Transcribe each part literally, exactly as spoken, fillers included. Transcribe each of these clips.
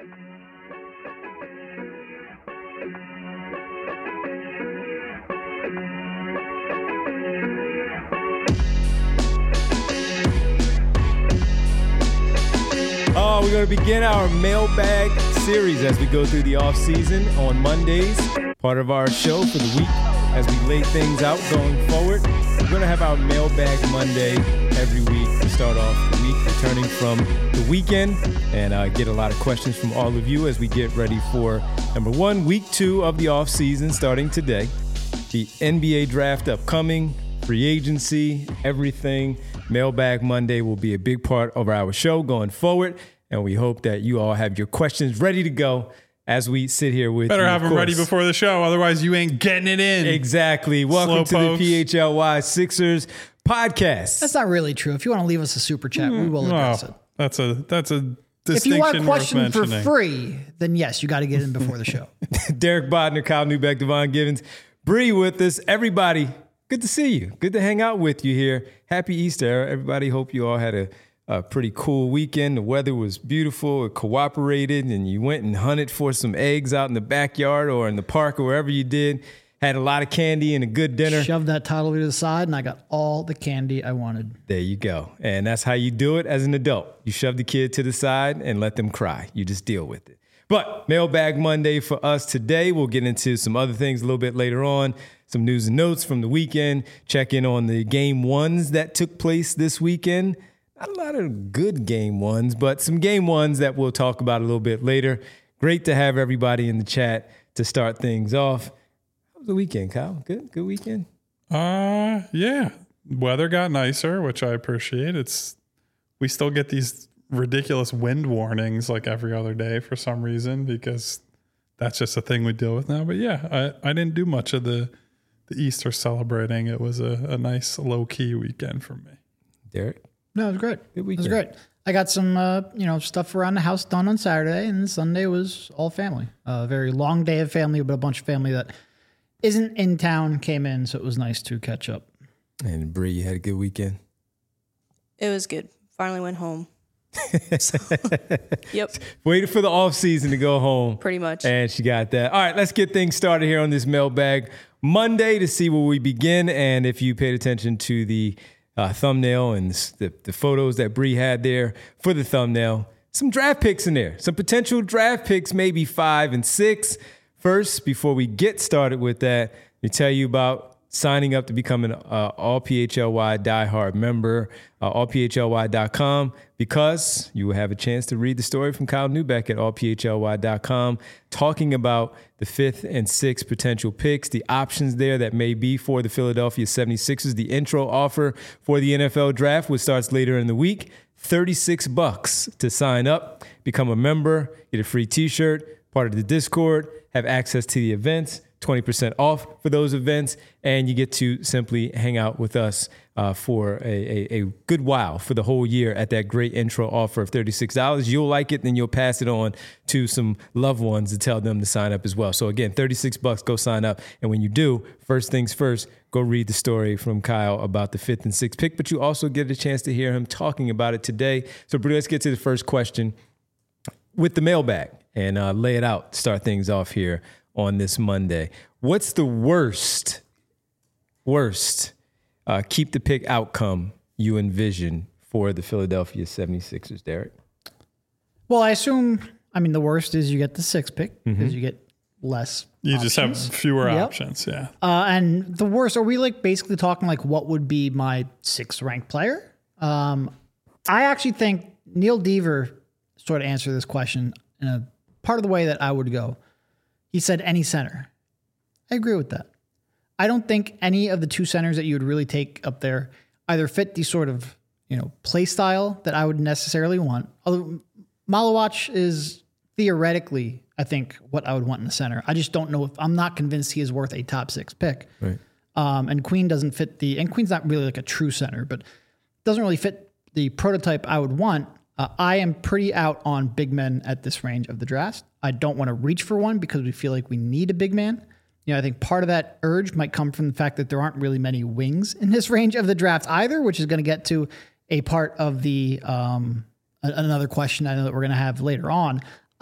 Oh, we're going to begin our mailbag series as we go through the off season on Mondays, part of our show for the week as we lay things out going forward. We're going to have our mailbag Monday every week to start off the week, returning from the weekend, and uh, get a lot of questions from all of you as we get ready for, number one, week two of the off season starting today, the N B A draft upcoming, free agency, everything. Mailbag Monday will be a big part of our show going forward, and we hope that you all have your questions ready to go as we sit here with Better you. have them ready before the show, otherwise you ain't getting it in. Exactly. Welcome to the P H L Y Sixers podcast. That's not really true. If you want to leave us a super chat, mm, we will address well, it. That's a that's a distinction. If you want a question for mentioning. free, then yes, you got to get in before the show. Derek Bodner, Kyle Neubeck, Devon Givens, Bree with us. Everybody, good to see you. Good to hang out with you here. Happy Easter. Everybody, hope you all had a, a pretty cool weekend. The weather was beautiful. It cooperated, and you went and hunted for some eggs out in the backyard or in the park or wherever you did. Had a lot of candy and a good dinner. Shoved that toddler to the side, and I got all the candy I wanted. There you go. And that's how you do it as an adult. You shove the kid to the side and let them cry. You just deal with it. But Mailbag Monday for us today. We'll get into some other things a little bit later on. Some news and notes from the weekend. Check in on the game ones that took place this weekend. Not a lot of good game ones, but some game ones that we'll talk about a little bit later. Great to have everybody in the chat to start things off. How was the weekend, Kyle? Good? Good weekend? Uh, yeah. Weather got nicer, which I appreciate. It's we still get these ridiculous wind warnings like every other day for some reason because that's just a thing we deal with now. But yeah, I, I didn't do much of the, the Easter celebrating. It was a, a nice low-key weekend for me. Derek? No, it was great. Good It weekend. was great. I got some, uh, you know, stuff around the house done on Saturday, and Sunday was all family. A uh, very long day of family, but a bunch of family that isn't in town came in, so it was nice to catch up. And Bree, you had a good weekend? It was good. Finally went home. So, yep. Waited for the off season to go home. Pretty much. And she got that. All right, let's get things started here on this mailbag Monday to see where we begin. And if you paid attention to the uh, thumbnail and the, the photos that Bree had there for the thumbnail, some draft picks in there. Some potential draft picks, maybe five and six. First, before we get started with that, let me tell you about signing up to become an uh, All P H L Y diehard member, uh, all P H L Y dot com, because you will have a chance to read the story from Kyle Neubeck at all P H L Y dot com, talking about the fifth and sixth potential picks, the options there that may be for the Philadelphia seventy-sixers, the intro offer for the N F L draft, which starts later in the week, thirty-six bucks to sign up, become a member, get a free t-shirt, part of the Discord, have access to the events, twenty percent off for those events, and you get to simply hang out with us uh, for a, a, a good while for the whole year at that great intro offer of thirty-six dollars. You'll like it, then you'll pass it on to some loved ones to tell them to sign up as well. So again, thirty-six bucks, go sign up. And when you do, first things first, go read the story from Kyle about the fifth and sixth pick, but you also get a chance to hear him talking about it today. So Brew, let's get to the first question with the mailbag and uh, lay it out, start things off here on this Monday. What's the worst, worst uh, keep the pick outcome you envision for the Philadelphia seventy-sixers, Derek? Well, I assume, I mean, the worst is you get the sixth pick because Mm-hmm. you get less You options. just have fewer Yep. options, yeah. Uh, and the worst, are we like basically talking like what would be my sixth ranked player? Um, I actually think Neil Deaver sort of answered this question in a part of the way that I would go. He said any center. I agree with that. I don't think any of the two centers that you would really take up there either fit the sort of, you know, play style that I would necessarily want. Although Malawach is theoretically, I think, what I would want in the center. I just don't know if I'm not convinced he is worth a top six pick. Right. Um, and Queen doesn't fit the, and Queen's not really like a true center, but doesn't really fit the prototype I would want. Uh, I am pretty out on big men at this range of the draft. I don't want to reach for one because we feel like we need a big man. You know, I think part of that urge might come from the fact that there aren't really many wings in this range of the draft either, which is going to get to a part of the, um, a- another question I know that we're going to have later on.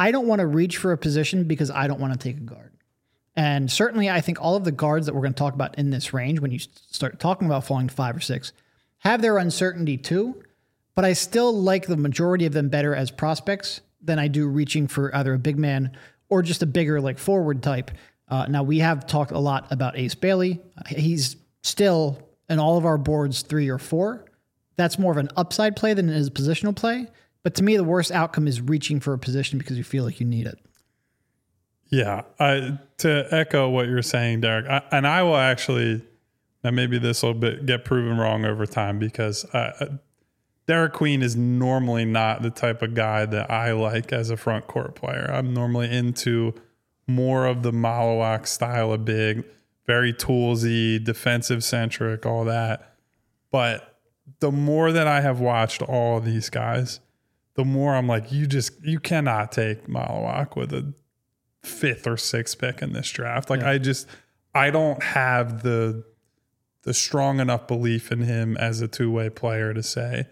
I don't want to reach for a position because I don't want to take a guard. And certainly I think all of the guards that we're going to talk about in this range, when you start talking about falling to five or six, have their uncertainty too. But I still like the majority of them better as prospects than I do reaching for either a big man or just a bigger like forward type. Uh, now we have talked a lot about Ace Bailey. He's still in all of our boards three or four. That's more of an upside play than it is a positional play. But to me, the worst outcome is reaching for a position because you feel like you need it. Yeah. I, to echo what you're saying, Derek, I, and I will actually, now maybe this will bit, get proven wrong over time because uh, Derek Queen is normally not the type of guy that I like as a front court player. I'm normally into more of the Malawak style of big, very toolsy, defensive centric, all that. But the more that I have watched all of these guys, the more I'm like, you just, you cannot take Malawak with a fifth or sixth pick in this draft. Like yeah. I just, I don't have the, the strong enough belief in him as a two-way player to say,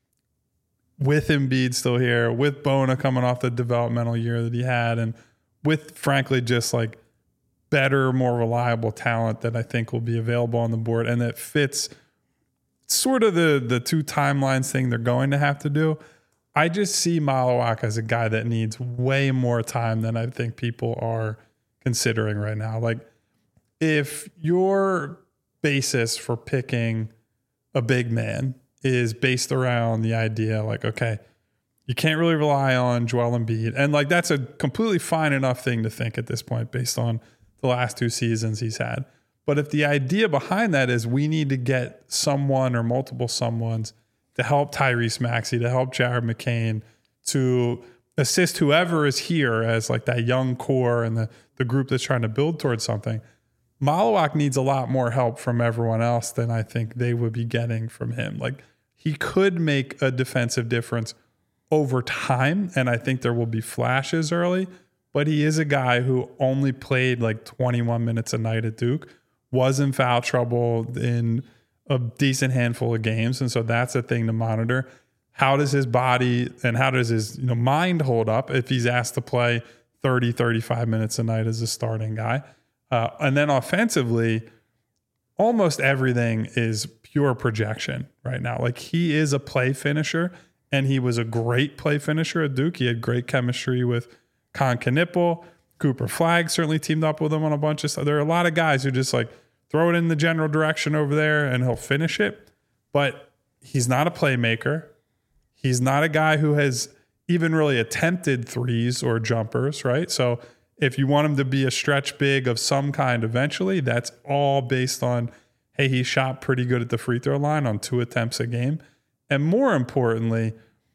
with Embiid still here, with Bona coming off the developmental year that he had, and with frankly just like better, more reliable talent that I think will be available on the board and that fits sort of the the two timelines thing they're going to have to do. I just see Malawak as a guy that needs way more time than I think people are considering right now. Like if your basis for picking a big man is based around the idea like, okay, you can't really rely on Joel Embiid. And like, that's a completely fine enough thing to think at this point based on the last two seasons he's had. But if the idea behind that is we need to get someone or multiple someones to help Tyrese Maxey, to help Jared McCain, to assist whoever is here as like that young core and the, the group that's trying to build towards something, Malawak needs a lot more help from everyone else than I think they would be getting from him. Like he could make a defensive difference over time, and I think there will be flashes early, but he is a guy who only played like twenty-one minutes a night at Duke, was in foul trouble in a decent handful of games, and so that's a thing to monitor. How does his body and how does his you know mind hold up if he's asked to play thirty, thirty-five minutes a night as a starting guy? Uh, and then offensively, almost everything is pure projection right now. Like he is a play finisher, and he was a great play finisher at Duke. He had great chemistry with Con Knipple. Cooper Flagg certainly teamed up with him on a bunch of stuff. There are a lot of guys who just like throw it in the general direction over there and he'll finish it. But he's not a playmaker. He's not a guy who has even really attempted threes or jumpers, right? So if you want him to be a stretch big of some kind eventually, that's all based on, hey, he shot pretty good at the free throw line on two attempts a game. And more importantly,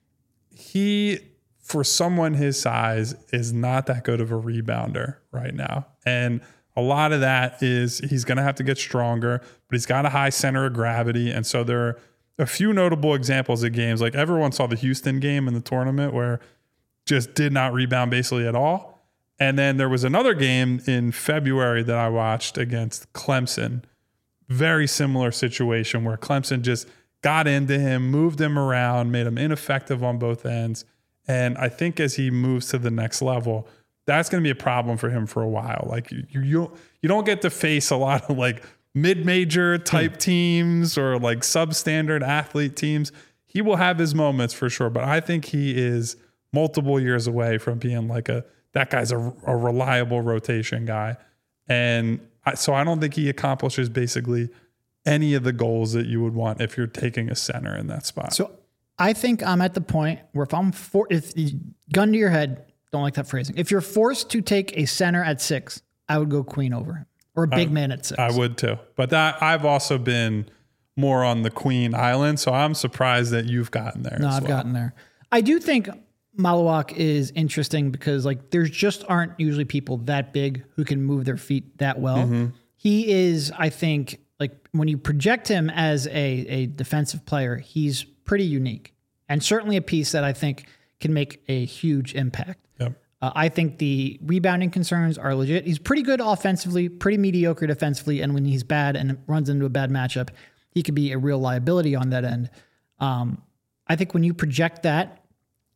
he, for someone his size, is not that good of a rebounder right now. And a lot of that is he's going to have to get stronger, but he's got a high center of gravity. And so there are a few notable examples of games. Like everyone saw the Houston game in the tournament where just did not rebound basically at all. And then there was another game in February that I watched against Clemson. Very similar situation where Clemson just got into him, moved him around, made him ineffective on both ends. And I think as he moves to the next level, that's going to be a problem for him for a while. Like you, you, you don't get to face a lot of like mid-major type teams or like substandard athlete teams. He will have his moments for sure, but I think he is multiple years away from being like a, that guy's a, a reliable rotation guy. And I, so I don't think he accomplishes basically any of the goals that you would want if you're taking a center in that spot. So I think I'm at the point where if I'm for, if gun to your head, don't like that phrasing. If you're forced to take a center at six, I would go Queen over him or a big I, man at six. I would too. But that I've also been more on the Queen Island. So I'm surprised that you've gotten there. No, as I've well. gotten there. I do think Malawak is interesting because like there's just aren't usually people that big who can move their feet that well. Mm-hmm. He is, I think, like when you project him as a, a defensive player, he's pretty unique and certainly a piece that I think can make a huge impact. Yep. Uh, I think the rebounding concerns are legit. He's pretty good offensively, pretty mediocre defensively, and when he's bad and runs into a bad matchup, he could be a real liability on that end. Um, I think when you project that,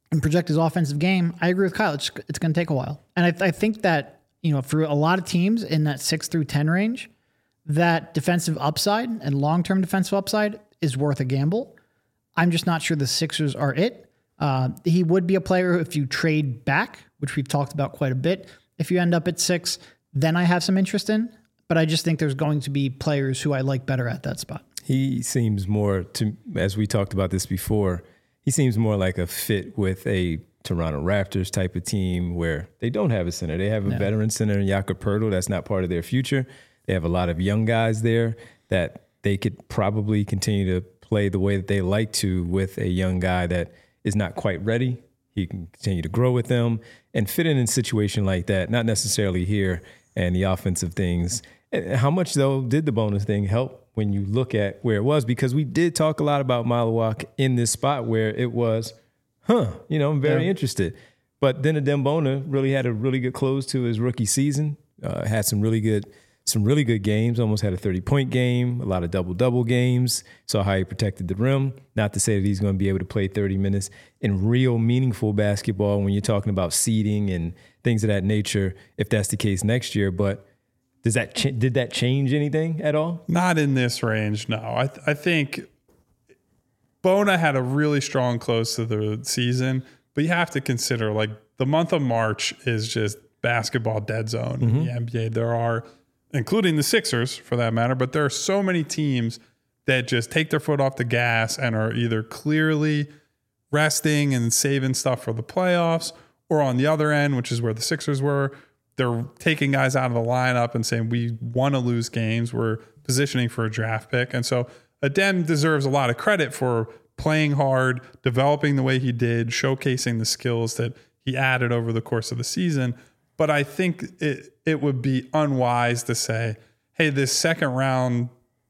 and project his offensive game, I agree with Kyle. It's, it's going to take a while. And I, I think that, you know, for a lot of teams in that six through ten range, that defensive upside and long-term defensive upside is worth a gamble. I'm just not sure the Sixers are it. Uh, he would be a player if you trade back, which we've talked about quite a bit. If you end up at six, then I have some interest in. But I just think there's going to be players who I like better at that spot. He seems more, to, as we talked about this before, he seems more like a fit with a Toronto Raptors type of team where they don't have a center. They have a no. veteran center in Jakob Poeltl. That's not part of their future. They have a lot of young guys there that they could probably continue to play the way that they like to with a young guy that is not quite ready. He can continue to grow with them and fit in a situation like that, not necessarily here and the offensive things. How much, though, did the bonus thing help when you look at where it was? Because we did talk a lot about Malawak in this spot where it was, huh, you know, I'm very yeah. interested. But then Adem Bona really had a really good close to his rookie season, uh, had some really good some really good games, almost had a thirty-point game, a lot of double-double games, saw how he protected the rim. Not to say that he's going to be able to play thirty minutes in real meaningful basketball when you're talking about seeding and things of that nature, if that's the case next year. But Does that ch- did that change anything at all? Not in this range, no. I th- I think Bona had a really strong close to the season, but you have to consider like the month of March is just basketball dead zone mm-hmm. in the N B A. There are, including the Sixers for that matter, but there are so many teams that just take their foot off the gas and are either clearly resting and saving stuff for the playoffs, or on the other end, which is where the Sixers were, they're taking guys out of the lineup and saying, we want to lose games. We're positioning for a draft pick. And so Adem deserves a lot of credit for playing hard, developing the way he did, showcasing the skills that he added over the course of the season. But I think it, it would be unwise to say, hey, this second round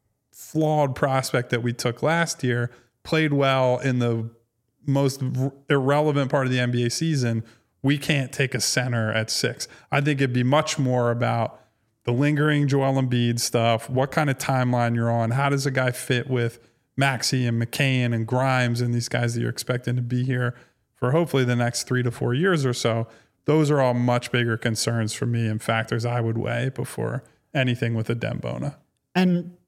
flawed prospect that we took last year played well in the most irrelevant part of the N B A season. We can't take a center at six. I think it'd be much more about the lingering Joel Embiid stuff, what kind of timeline you're on, how does a guy fit with Maxey and McCain and Grimes and these guys that you're expecting to be here for hopefully the next three to four years or so. Those are all much bigger concerns for me and factors I would weigh before anything with Adem Bona. And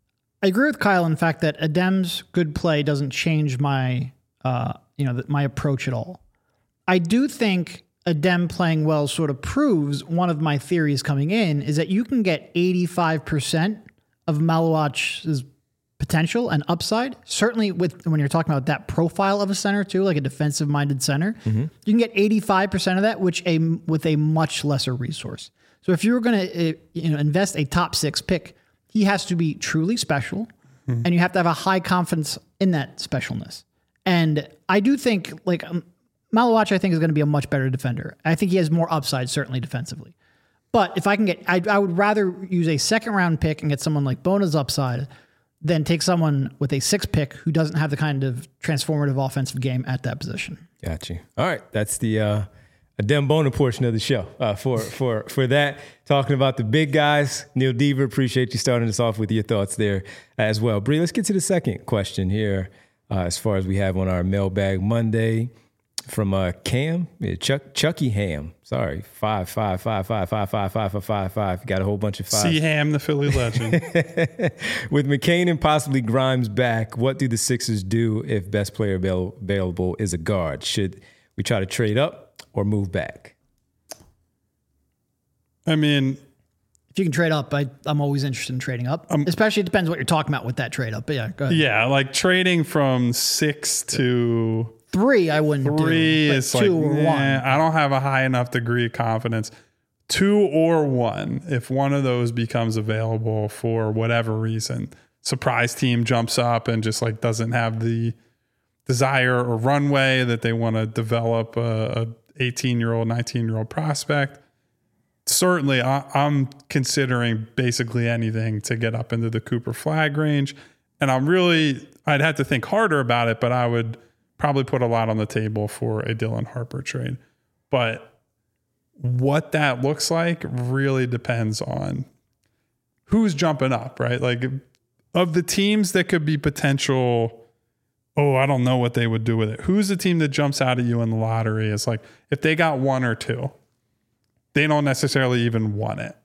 I agree with Kyle in the fact that Adem's good play doesn't change my, uh, you know, my approach at all. I do think Adem playing well sort of proves one of my theories coming in is that you can get eighty-five percent of Malawak's potential and upside. Certainly with when you're talking about that profile of a center too, like a defensive minded center, mm-hmm. you can get eighty-five percent of that, which a with a much lesser resource. So if you were going to you know invest a top six pick, he has to be truly special, mm-hmm. and you have to have a high confidence in that specialness. And I do think like um, Malawak, I think, is going to be a much better defender. I think he has more upside, certainly defensively. But if I can get, I, I would rather use a second round pick and get someone like Bona's upside than take someone with a six pick who doesn't have the kind of transformative offensive game at that position. Got you. All right. That's the uh, Adem Bona portion of the show. Uh, for, for, for that, talking about the big guys, Neil Deaver, appreciate you starting us off with your thoughts there as well. Bree, let's get to the second question here uh, as far as we have on our Mailbag Monday. From uh, Cam, yeah, Chuck, Chucky Ham. Sorry, five, five, five, five, five, five, five, five, five, five. Got a whole bunch of fives. C Ham, the Philly legend. With McCain and possibly Grimes back, what do the Sixers do if best player avail- available is a guard? Should we try to trade up or move back? I mean, if you can trade up, I, I'm always interested in trading up. Um, Especially, it depends what you're talking about with that trade up. But yeah, go ahead. Yeah, like trading from six to three, I wouldn't three do. is two like, or nah, one. I don't have a high enough degree of confidence. Two or one, if one of those becomes available for whatever reason, surprise team jumps up and just like doesn't have the desire or runway that they want to develop a eighteen year old, nineteen year old prospect. Certainly, I, I'm considering basically anything to get up into the Cooper Flag range. And I'm really, I'd have to think harder about it, but I would probably put a lot on the table for a Dylan Harper trade. But what that looks like really depends on who's jumping up, right? Like, of the teams that could be potential oh, I don't know what they would do with it. Who's the team that jumps out at you in the lottery? It's like, if they got one or two, they don't necessarily even want it.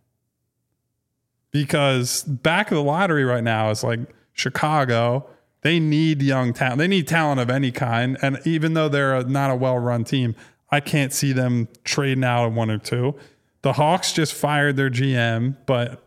Because back of the lottery right now is like Chicago. They need young talent. They need talent of any kind. And even though they're a, not a well-run team, I can't see them trading out of one or two. The Hawks just fired their G M, but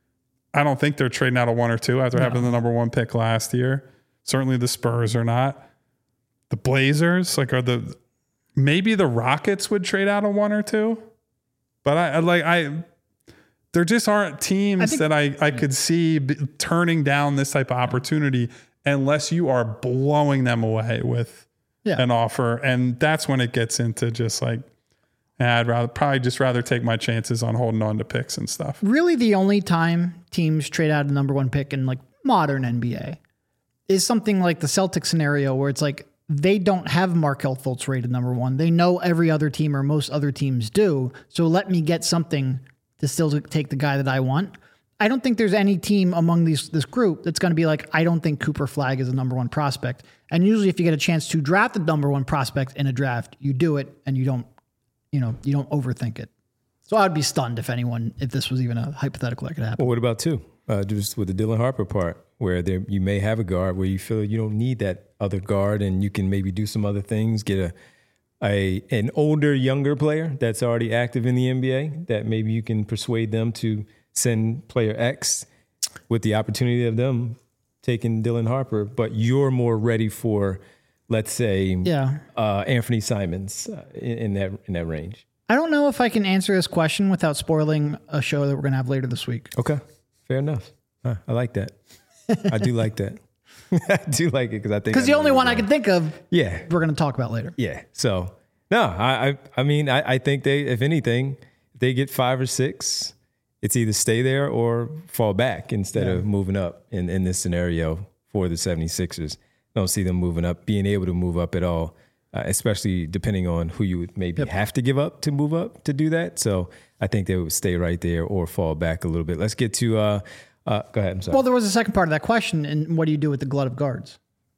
I don't think they're trading out of one or two after no. having the number one pick last year. Certainly the Spurs are not. The Blazers, like, are the maybe the Rockets would trade out of one or two, but I, I like I. There just aren't teams I think, that I I could see b- turning down this type of opportunity unless you are blowing them away with yeah. an offer, and that's when it gets into just like. I'd rather probably just rather take my chances on holding on to picks and stuff. Really, the only time teams trade out a number one pick in like modern N B A is something like the Celtics scenario where it's like they don't have Markelle Fultz rated number one. They know every other team or most other teams do. So let me get something to still take the guy that I want. I don't think there's any team among these this group that's going to be like, I don't think Cooper Flagg is a number one prospect. And usually if you get a chance to draft the number one prospect in a draft, you do it and you don't You know, you don't overthink it. So I'd be stunned if anyone, if this was even a hypothetical that could happen. Well, what about two? Uh, just with the Dylan Harper part, where there you may have a guard where you feel you don't need that other guard, and you can maybe do some other things. Get a a an older, younger player that's already active in the N B A that maybe you can persuade them to send player X with the opportunity of them taking Dylan Harper, but you're more ready for. Let's say, yeah, uh, Anthony Simons uh, in, in that in that range. I don't know if I can answer this question without spoiling a show that we're going to have later this week. Okay, fair enough. Huh, I like that. I do like that. I do like it because I think because the only one I can think of. Yeah, we're going to talk about later. Yeah. So no, I I, I mean I, I think they, if anything, if they get five or six, it's either stay there or fall back instead yeah. of moving up in in this scenario for the 76ers. Don't see them moving up, being able to move up at all, uh, especially depending on who you would maybe yep. have to give up to move up to do that. So I think they would stay right there or fall back a little bit. Let's get to, uh, uh, go ahead. I'm sorry. Well, there was a second part of that question. And what do you do with the glut of guards?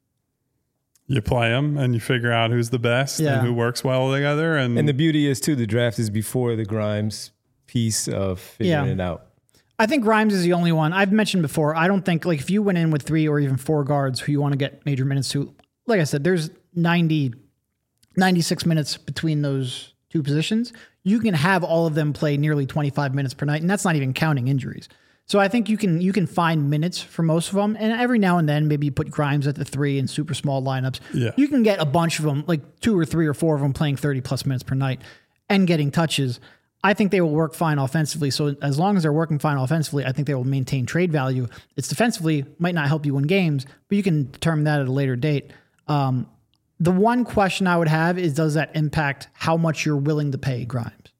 You play them and you figure out who's the best yeah. and who works well together. And, and the beauty is, too, the draft is before the Grimes piece of figuring yeah. it out. I think Grimes is the only one. I've mentioned before, I don't think, like, if you went in with three or even four guards who you want to get major minutes to, like I said, there's ninety, ninety-six minutes between those two positions. You can have all of them play nearly twenty-five minutes per night, and that's not even counting injuries. So I think you can you can find minutes for most of them, and every now and then maybe you put Grimes at the three in super small lineups. Yeah. You can get a bunch of them, like two or three or four of them playing thirty-plus minutes per night and getting touches. I think they will work fine offensively. So as long as they're working fine offensively, I think they will maintain trade value. It's defensively might not help you win games, but you can determine that at a later date. Um, the one question I would have is, does that impact how much you're willing to pay Grimes?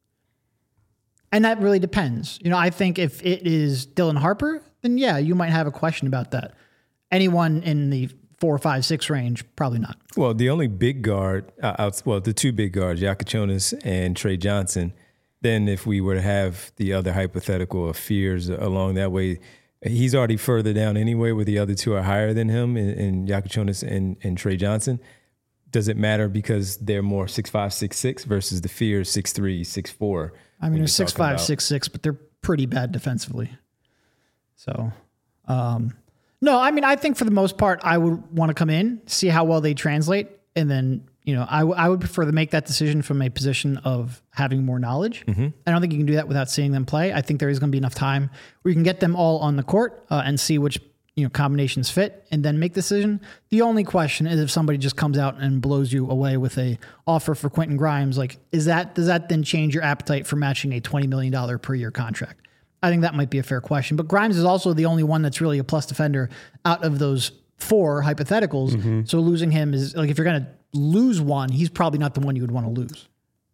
And that really depends. You know, I think if it is Dylan Harper, then yeah, you might have a question about that. Anyone in the four, five, six range, probably not. Well, the only big guard, uh, out, well, the two big guards, Yakachonis and Trey Johnson. Then if we were to have the other hypothetical of Fears along that way, he's already further down anyway, where the other two are higher than him in, in Yakachonis and, and Trey Johnson. Does it matter because they're more six five, six six versus the Fears six three, six four? I mean, they're six five, six six, but they're pretty bad defensively. So, um, no, I mean, I think for the most part, I would want to come in, see how well they translate, and then you know, I, w- I would prefer to make that decision from a position of having more knowledge. Mm-hmm. I don't think you can do that without seeing them play. I think there is going to be enough time where you can get them all on the court uh, and see which you know combinations fit, and then make the decision. The only question is if somebody just comes out and blows you away with a offer for Quentin Grimes, like is that does that then change your appetite for matching a twenty million dollars per year contract? I think that might be a fair question. But Grimes is also the only one that's really a plus defender out of those four hypotheticals. Mm-hmm. So losing him is like if you're going to lose one, he's probably not the one you would want to lose.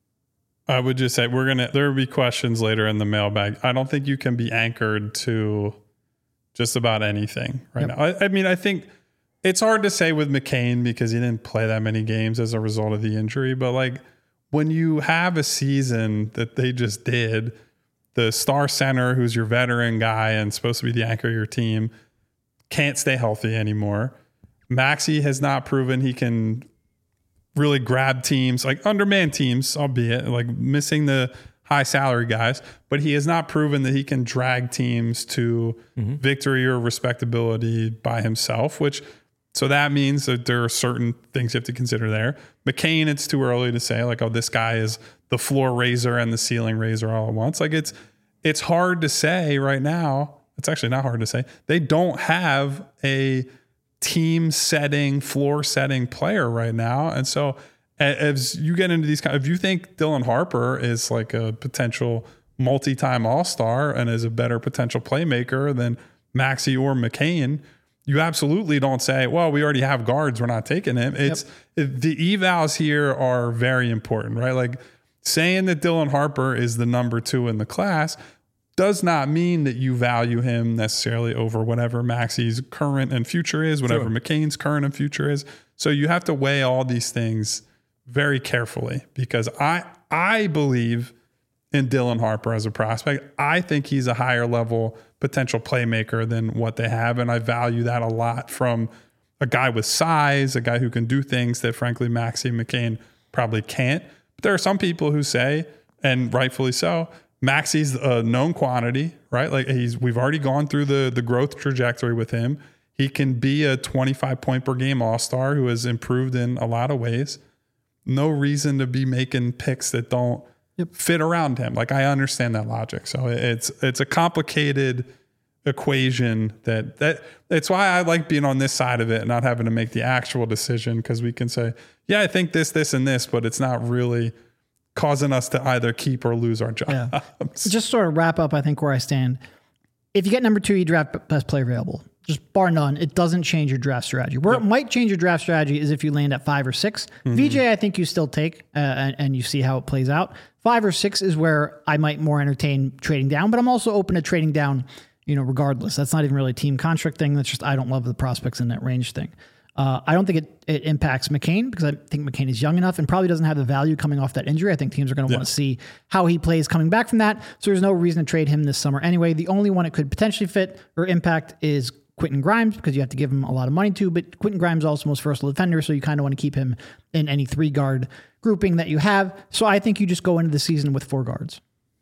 I would just say we're going to, there will be questions later in the mailbag. I don't think you can be anchored to just about anything right yep. now. I, I mean, I think it's hard to say with McCain because he didn't play that many games as a result of the injury. But like when you have a season that they just did, the star center, who's your veteran guy and supposed to be the anchor of your team, can't stay healthy anymore. Maxey has not proven he can really grab teams, like undermanned teams, albeit like missing the high salary guys, but he has not proven that he can drag teams to mm-hmm. victory or respectability by himself, which so that means that there are certain things you have to consider there. McCain, it's too early to say like, oh, this guy is the floor raiser and the ceiling raiser all at once. Like it's, it's hard to say right now. It's actually not hard to say. They don't have a team setting, floor setting player right now. And so as you get into these kind, if you think Dylan Harper is like a potential multi-time all-star and is a better potential playmaker than Maxey or McCain, you absolutely don't say, well, we already have guards, we're not taking him. It's yep. it, the evals here are very important, right? Like saying that Dylan Harper is the number two in the class does not mean that you value him necessarily over whatever Maxey's current and future is, whatever sure. McCain's current and future is. So you have to weigh all these things very carefully because I I believe in Dylan Harper as a prospect. I think he's a higher level potential playmaker than what they have, and I value that a lot from a guy with size, a guy who can do things that frankly Maxey and McCain probably can't. But there are some people who say, and rightfully so, Maxey's a known quantity, right? Like he's, we've already gone through the the growth trajectory with him. He can be a twenty-five point per game all-star who has improved in a lot of ways. No reason to be making picks that don't yep. fit around him. Like I understand that logic. So it's it's a complicated equation that that it's why I like being on this side of it and not having to make the actual decision because we can say, yeah, I think this, this, and this, but it's not really causing us to either keep or lose our jobs. Yeah. Just sort of wrap up, I think, where I stand. If you get number two, you draft best player available. Just bar none. It doesn't change your draft strategy. Where yep. it might change your draft strategy is if you land at five or six. Mm-hmm. V J, I think you still take uh, and, and you see how it plays out. Five or six is where I might more entertain trading down, but I'm also open to trading down, you know, regardless. That's not even really a team construct thing. That's just I don't love the prospects in that range thing. Uh, I don't think it, it impacts McCain because I think McCain is young enough and probably doesn't have the value coming off that injury. I think teams are going to yeah. want to see how he plays coming back from that. So there's no reason to trade him this summer anyway. The only one it could potentially fit or impact is Quentin Grimes because you have to give him a lot of money to, but Quentin Grimes is also most versatile defender, so you kind of want to keep him in any three guard grouping that you have. So I think you just go into the season with four guards.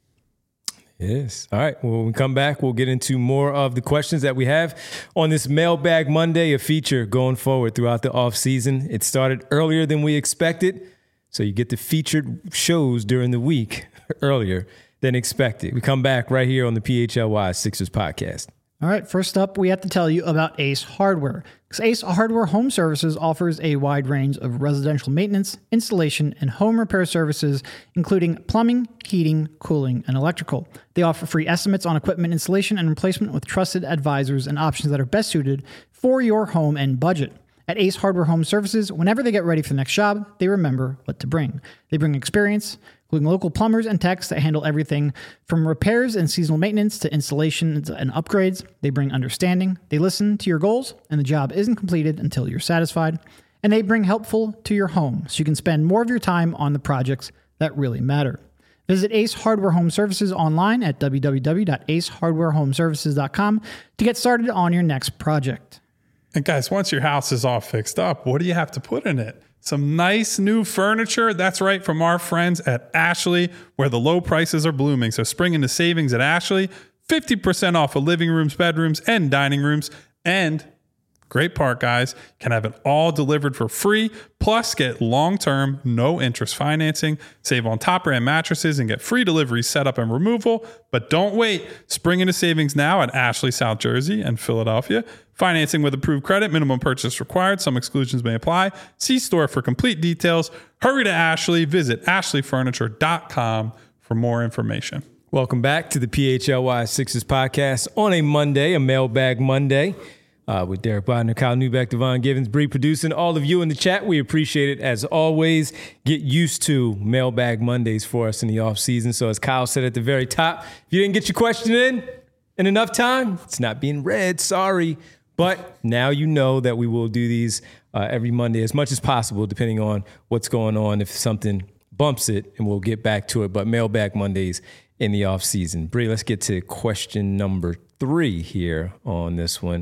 Yes. All right. Well, when we come back, we'll get into more of the questions that we have on this Mailbag Monday, a feature going forward throughout the off season. It started earlier than we expected, so you get the featured shows during the week earlier than expected. We come back right here on the P H L Y Sixers podcast. All right, first up, we have to tell you about Ace Hardware. Because Ace Hardware Home Services offers a wide range of residential maintenance, installation, and home repair services, including plumbing, heating, cooling, and electrical. They offer free estimates on equipment installation and replacement with trusted advisors and options that are best suited for your home and budget. At Ace Hardware Home Services, whenever they get ready for the next job, they remember what to bring. They bring experience, including local plumbers and techs that handle everything from repairs and seasonal maintenance to installations and upgrades. They bring understanding. They listen to your goals, and the job isn't completed until you're satisfied. And they bring helpful to your home, so you can spend more of your time on the projects that really matter. Visit Ace Hardware Home Services online at w w w dot ace hardware home services dot com to get started on your next project. And guys, once your house is all fixed up, what do you have to put in it? Some nice new furniture. That's right, from our friends at Ashley, where the low prices are blooming. So spring into savings at Ashley, fifty percent off of living rooms, bedrooms, and dining rooms. And great part, guys, can have it all delivered for free. Plus, get long-term, no-interest financing. Save on top brand mattresses and get free delivery, setup, and removal. But don't wait. Spring into savings now at Ashley, South Jersey, and Philadelphia. Financing with approved credit. Minimum purchase required. Some exclusions may apply. See store for complete details. Hurry to Ashley. Visit ashley furniture dot com for more information. Welcome back to the P H L Y Sixers podcast on a Monday, a Mailbag Monday. Uh, with Derek Bodner, Kyle Newbeck, Devon Givens, Bree producing. All of you in the chat, we appreciate it as always. Get used to Mailbag Mondays for us in the off season. So as Kyle said at the very top, if you didn't get your question in in enough time, it's not being read. Sorry. But now you know that we will do these uh, every Monday as much as possible, depending on what's going on. If something bumps it, and we'll get back to it. But Mailbag Mondays in the off season. Bree, let's get to question number three here on this one.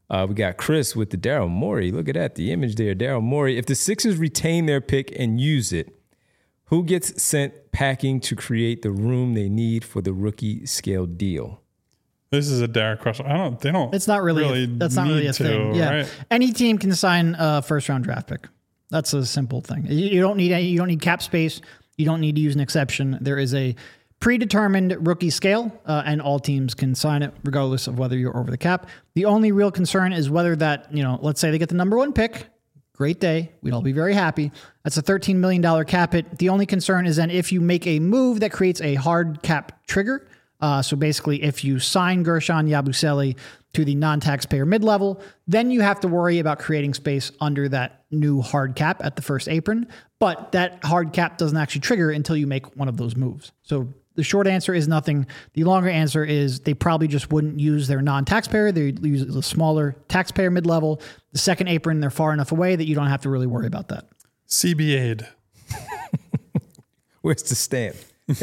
Uh, we got Chris with the Daryl Morey. Look at that, the image there, Daryl Morey. If the Sixers retain their pick and use it, who gets sent packing to create the room they need for the rookie scale deal? This is a Derek question. I don't. They don't. It's not really. really a, that's not really a to, thing. Yeah, right? Any team can sign a first round draft pick. That's a simple thing. You, you don't need any, you don't need cap space. You don't need to use an exception. There is a predetermined rookie scale, uh, and all teams can sign it regardless of whether you're over the cap. The only real concern is whether that, you know, let's say they get the number one pick. Great day. We'd all be very happy. That's a thirteen million dollars cap hit. The only concern is then if you make a move that creates a hard cap trigger. Uh, so basically, if you sign Gershon Yabusele to the non-taxpayer mid-level, then you have to worry about creating space under that new hard cap at the first apron. But that hard cap doesn't actually trigger until you make one of those moves. So the short answer is nothing. The longer answer is they probably just wouldn't use their non-taxpayer. They use a smaller taxpayer mid-level. The second apron, they're far enough away that you don't have to really worry about that. C B A'd. Where's the stamp?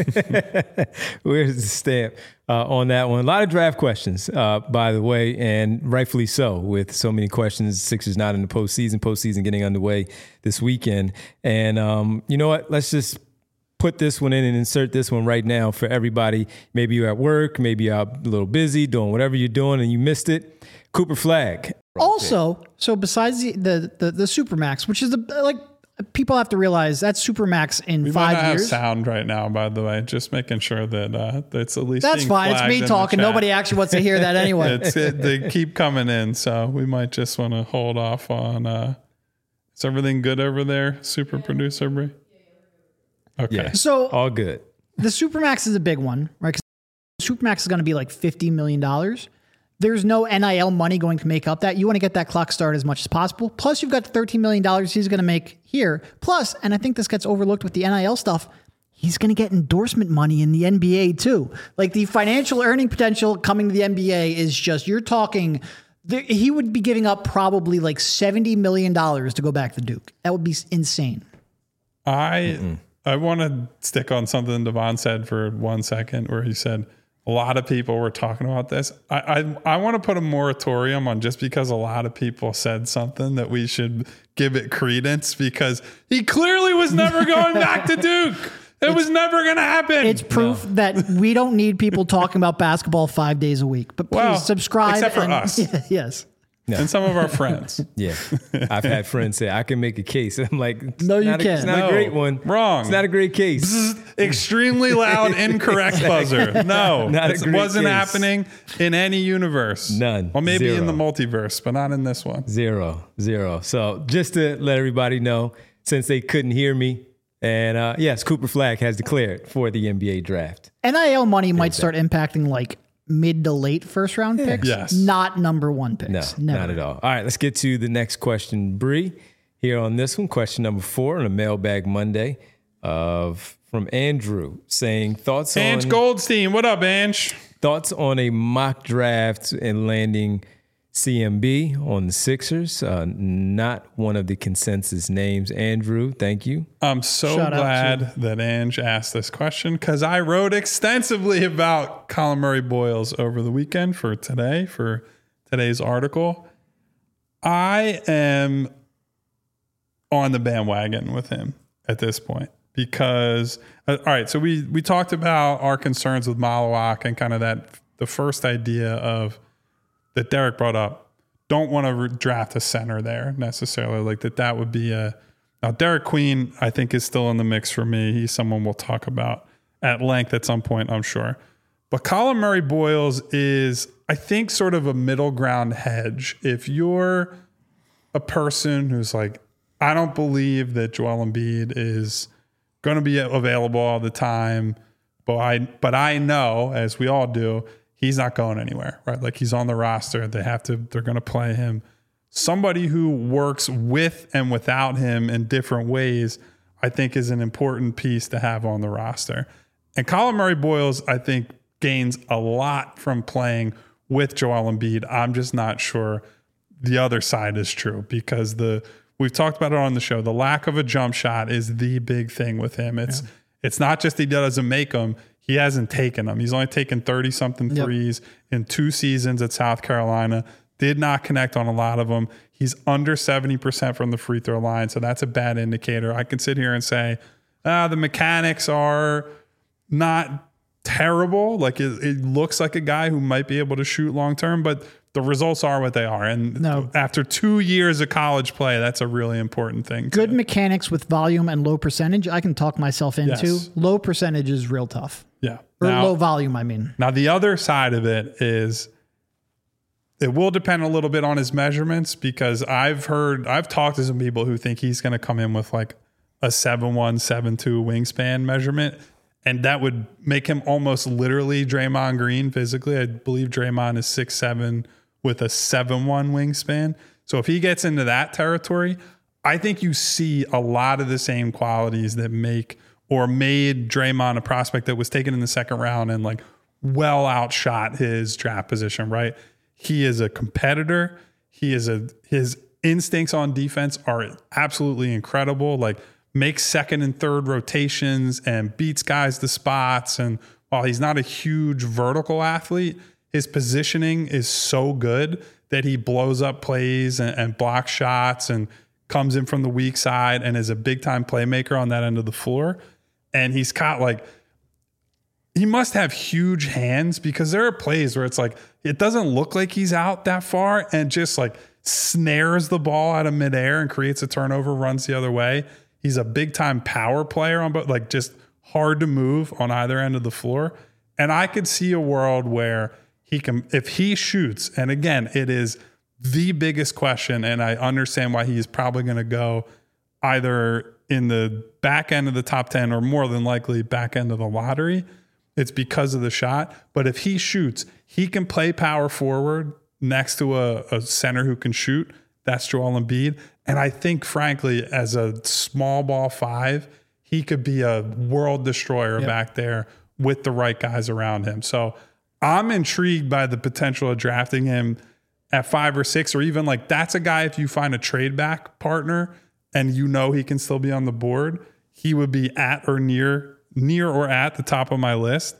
Where's the stamp uh, on that one? A lot of draft questions, uh, by the way, and rightfully so, with so many questions. Sixers not in the postseason, postseason getting underway this weekend. And um, you know what? Let's just put this one in and insert this one right now for everybody. Maybe you're at work, maybe you're out a little busy doing whatever you're doing and you missed it. Cooper Flagg. Also, so besides the the the, the Supermax, which is the like. People have to realize that's Supermax in we five might not years. Have sound right now, by the way. Just making sure that uh, that's at least. That's fine. It's me talking. Nobody actually wants to hear that anyway. it's, it, they keep coming in, so we might just want to hold off on. Uh, is everything good over there, super yeah. producer Bree? Okay, yeah. So all good. The Supermax is a big one, right? Because Supermax is going to be like fifty million dollars. There's no N I L money going to make up that. You want to get that clock started as much as possible. Plus, you've got the thirteen million dollars he's going to make here. Plus, and I think this gets overlooked with the N I L stuff, he's going to get endorsement money in the N B A too. Like the financial earning potential coming to the N B A is just, you're talking, he would be giving up probably like seventy million dollars to go back to Duke. That would be insane. I, Mm-mm. I want to stick on something Devon said for one second, where he said, a lot of people were talking about this. I, I I want to put a moratorium on just because a lot of people said something that we should give it credence, because he clearly was never going back to Duke. It it's, was never going to happen. It's proof no. that we don't need people talking about basketball five days a week. But please well, subscribe. Except for and, us. Yeah, yes. No. And some of our friends. Yeah. I've had friends say, I can make a case. I'm like, no, you can't. A, it's not no. a great one. Wrong. It's not a great case. Bzz, extremely loud, incorrect buzzer. No. Not it a great wasn't case. happening in any universe. None. Well, maybe Zero. in the multiverse, but not in this one. Zero. Zero. So just to let everybody know, since they couldn't hear me, and uh, yes, Cooper Flagg has declared for the N B A draft. N I L money might start impacting like mid to late first round picks. Yes. Not number one picks. No, Never. not at all. All right, let's get to the next question, Bree. Here on this one, question number four on a Mailbag Monday of from Andrew saying thoughts Ange on Goldstein. What up, Ange? Thoughts on a mock draft and landing C M B on the Sixers. Uh, not one of the consensus names. Andrew, thank you. I'm so Shout glad that Ange asked this question, because I wrote extensively about Colin Murray Boyles over the weekend for today, for today's article. I am on the bandwagon with him at this point because, uh, all right, so we we talked about our concerns with Malawak and kind of that, the first idea of, that Derek brought up, don't want to re- draft a center there necessarily. Like that, that would be a, now Derek Queen, I think, is still in the mix for me. He's someone we'll talk about at length at some point, I'm sure. But Colin Murray Boyles is, I think, sort of a middle ground hedge. If you're a person who's like, I don't believe that Joel Embiid is going to be available all the time, but I, but I know, as we all do, he's not going anywhere, right? Like he's on the roster. They have to, they're going to play him. Somebody who works with and without him in different ways, I think is an important piece to have on the roster. And Colin Murray Boyles, I think, gains a lot from playing with Joel Embiid. I'm just not sure the other side is true, because the, we've talked about it on the show. The lack of a jump shot is the big thing with him. It's, yeah. it's not just he doesn't make them. He hasn't taken them. He's only taken thirty-something threes yep. in two seasons at South Carolina. did not connect on a lot of them. He's under seventy percent from the free throw line, so that's a bad indicator. I can sit here and say, ah, the mechanics are not terrible. Like it, it looks like a guy who might be able to shoot long term, but the results are what they are. And No. after two years of college play, that's a really important thing. Good to, mechanics with volume and low percentage, I can talk myself into. Yes. Low percentage is real tough. yeah. Or Now- low volume, I mean. Now, the other side of it is it will depend a little bit on his measurements, because I've heard, I've talked to some people who think he's going to come in with like a seven one, seven two wingspan measurement. And that would make him almost literally Draymond Green physically. I believe Draymond is six seven with a seven one wingspan. So if he gets into that territory, I think you see a lot of the same qualities that make or made Draymond a prospect that was taken in the second round and like well outshot his draft position, right? He is a competitor. He is a, his instincts on defense are absolutely incredible. Like makes second and third rotations and beats guys to spots. And while he's not a huge vertical athlete, his positioning is so good that he blows up plays and, and blocks shots and comes in from the weak side and is a big time playmaker on that end of the floor. And he's got like, he must have huge hands, because there are plays where it's like, it doesn't look like he's out that far and just like snares the ball out of midair and creates a turnover, runs the other way. He's a big time power player on both, like just hard to move on either end of the floor. And I could see a world where he can, if he shoots, and again, it is the biggest question, and I understand why he's probably going to go either in the back end of the top ten or more than likely back end of the lottery. It's because of the shot. But if he shoots, he can play power forward next to a, a center who can shoot. That's Joel Embiid. And I think, frankly, as a small ball five, he could be a world destroyer Yep. back there with the right guys around him. So I'm intrigued by the potential of drafting him at five or six, or even like that's a guy, if you find a trade back partner and you know he can still be on the board, he would be at or near, near or at the top of my list.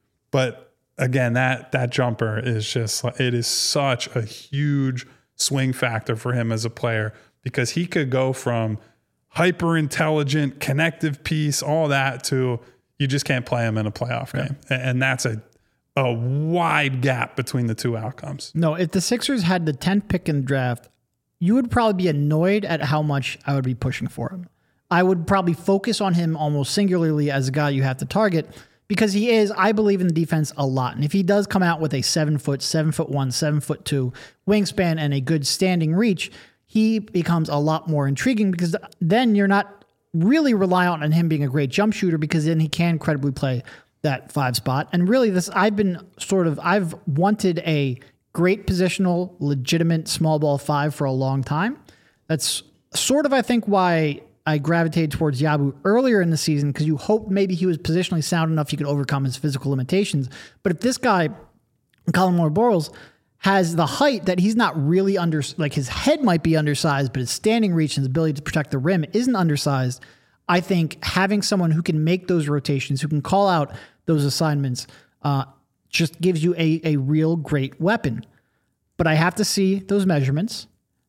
But again, that that jumper is just, it is such a huge swing factor for him as a player, because he could go from hyper intelligent, connective piece, all that, to you just can't play him in a playoff game. And that's a a wide gap between the two outcomes. No, if the Sixers had the tenth pick in the draft, you would probably be annoyed at how much I would be pushing for him. I would probably focus on him almost singularly as a guy you have to target, because he is, I believe in the defense a lot. And if he does come out with a seven foot, seven foot one, seven foot two wingspan and a good standing reach, he becomes a lot more intriguing, because then you're not really reliant on him being a great jump shooter, because then he can credibly play that five spot. And really this, I've been sort of, I've wanted a great positional, legitimate small ball five for a long time. That's sort of, I think, why I gravitated towards Yabu earlier in the season, because you hoped maybe he was positionally sound enough he could overcome his physical limitations. But if this guy, Colin Moore-Borles, has the height that he's not really under, like his head might be undersized, but his standing reach and his ability to protect the rim isn't undersized, I think having someone who can make those rotations, who can call out those assignments, uh, just gives you a, a real great weapon. But I have to see those measurements.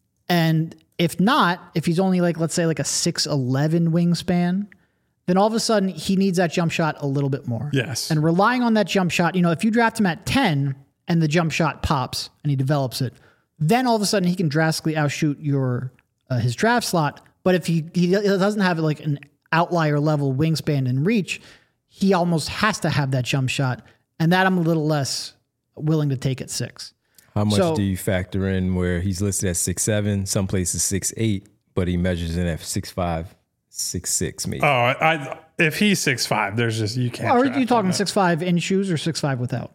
And if not, if he's only like, let's say like a six eleven wingspan, then all of a sudden he needs that jump shot a little bit more. Yes. And relying on that jump shot, you know, if you draft him at ten and the jump shot pops and he develops it, then all of a sudden he can drastically outshoot your uh, his draft slot. But if he, he doesn't have like an outlier level wingspan and reach, he almost has to have that jump shot. And that I'm a little less willing to take at six. How much So- do you factor in where he's listed at six seven, some places six eight, but he measures in at six five, six six maybe? Oh, I, if he's six five, there's just, you can't. Are draft you him talking at- six five in shoes or six five without?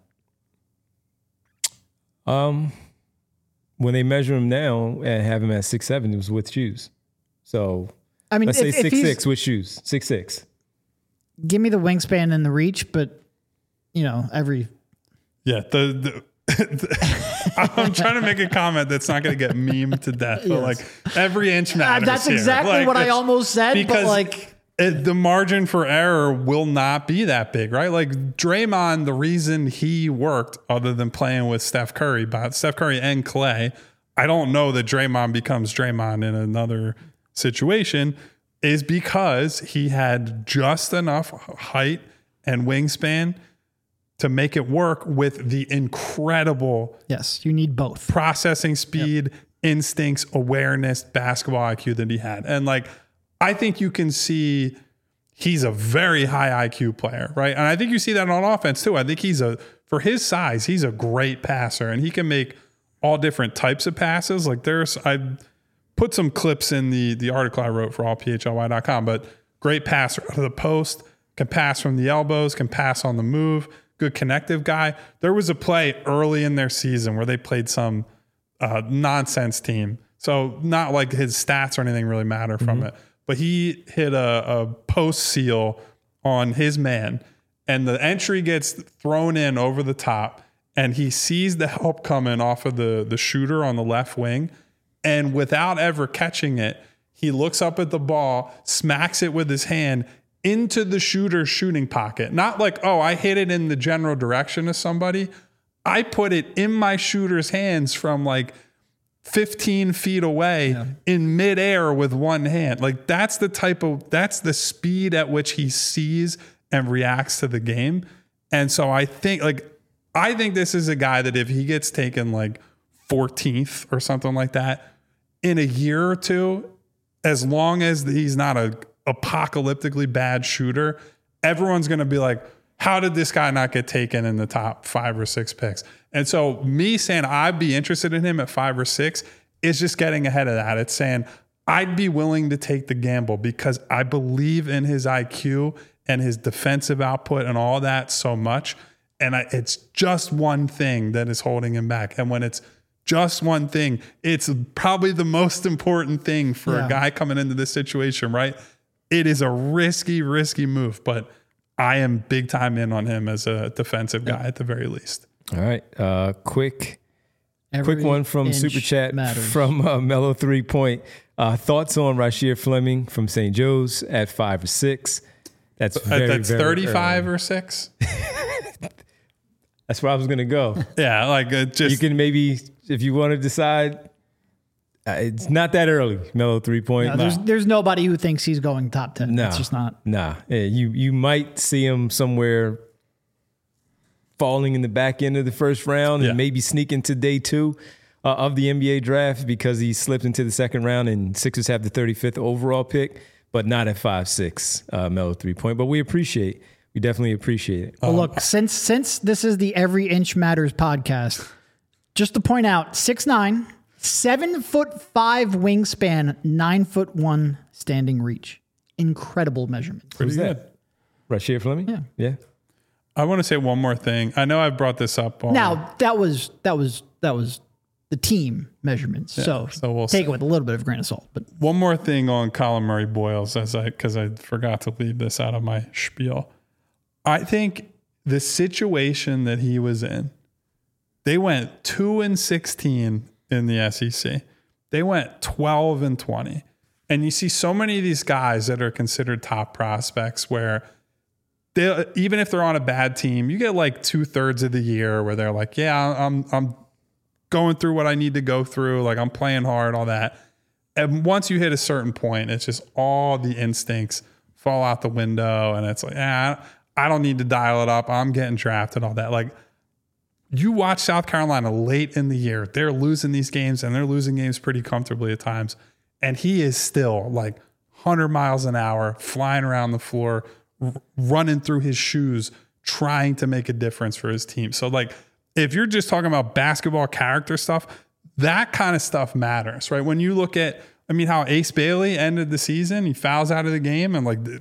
Um, when they measure him now and have him at six seven, it was with shoes. So I mean, let's if, say if six he's- six with shoes, six six. give me the wingspan and the reach, but you know, every Yeah, the, the I'm trying to make a comment that's not going to get memed to death, but Yes. like every inch matters. that's here. exactly Like, what I it's- almost said, but because like it, the margin for error will not be that big, right? Like Draymond, the reason he worked, other than playing with Steph Curry, but Steph Curry and Clay, I don't know that Draymond becomes Draymond in another situation is because he had just enough height and wingspan to make it work with the incredible Yes, you need both. processing speed, yep. instincts, awareness, basketball I Q that he had. And like, I think you can see he's a very high I Q player, right? And I think you see that on offense too. I think he's a, for his size, he's a great passer and he can make all different types of passes. Like there's, I put some clips in the, the article I wrote for all P H L Y dot com, but great passer out of the post, can pass from the elbows, can pass on the move, good connective guy. There was a play early in their season where they played some uh, nonsense team. So not like his stats or anything really matter from mm-hmm. it, but he hit a, a post seal on his man and the entry gets thrown in over the top and he sees the help coming off of the, the shooter on the left wing. And without ever catching it, he looks up at the ball, smacks it with his hand into the shooter's shooting pocket. Not like, oh, I hit it in the general direction of somebody. I put it in my shooter's hands from like fifteen feet away yeah. in midair with one hand. Like that's the type of, that's the speed at which he sees and reacts to the game. And so I think like, I think this is a guy that if he gets taken like fourteenth or something like that in a year or two, as long as he's not a apocalyptically bad shooter, everyone's going to be like, how did this guy not get taken in the top five or six picks? And so me saying I'd be interested in him at five or six is just getting ahead of that. It's saying I'd be willing to take the gamble because I believe in his I Q and his defensive output and all that so much. And I, it's just one thing that is holding him back. And when it's just one thing, it's probably the most important thing for yeah. a guy coming into this situation, right? It is a risky, risky move, but I am big time in on him as a defensive guy at the very least. All right. Uh, quick, Every quick one from Super Chat matters. from uh, Mellow Three Point. Uh, thoughts on Rasheer Fleming from Saint Joe's at five or six? That's very, that's very thirty-five early. Or six. That's where I was gonna go. Yeah, like uh, just you can maybe if you want to decide. Uh, it's not that early, Mellow Three Point. No, there's nah. there's nobody who thinks he's going top ten. Nah, it's just not. Nah, yeah, you you might see him somewhere falling in the back end of the first round yeah. and maybe sneak into day two uh, of the N B A draft because he slipped into the second round and Sixers have the thirty-fifth overall pick, but not at five six, uh, Mellow Three Point. But we appreciate, we definitely appreciate it. Well, Um, look, since since this is the Every Inch Matters podcast, just to point out, six nine. Seven foot five wingspan, nine foot one standing reach. Incredible measurements. Who's that? Rasheer Fleming? Yeah. Yeah. I want to say one more thing. I know I brought this up on Now that was that was that was the team measurements. Yeah, so so we'll take see. it with a little bit of a grain of salt. But one more thing on Colin Murray Boyles, as I because I forgot to leave this out of my spiel. I think the situation that he was in, they went two and sixteen in the S E C. They went twelve and twenty. And you see so many of these guys that are considered top prospects where they, even if they're on a bad team, you get like two thirds of the year where they're like, yeah, I'm, I'm going through what I need to go through. Like I'm playing hard, all that. And once you hit a certain point, it's just all the instincts fall out the window. And it's like, ah, I don't need to dial it up. I'm getting drafted, all that. Like, you watch South Carolina late in the year, they're losing these games and they're losing games pretty comfortably at times. And he is still like one hundred miles an hour, flying around the floor, r- running through his shoes, trying to make a difference for his team. So like, if you're just talking about basketball character stuff, that kind of stuff matters, right? When you look at, I mean, how Ace Bailey ended the season, he fouls out of the game and like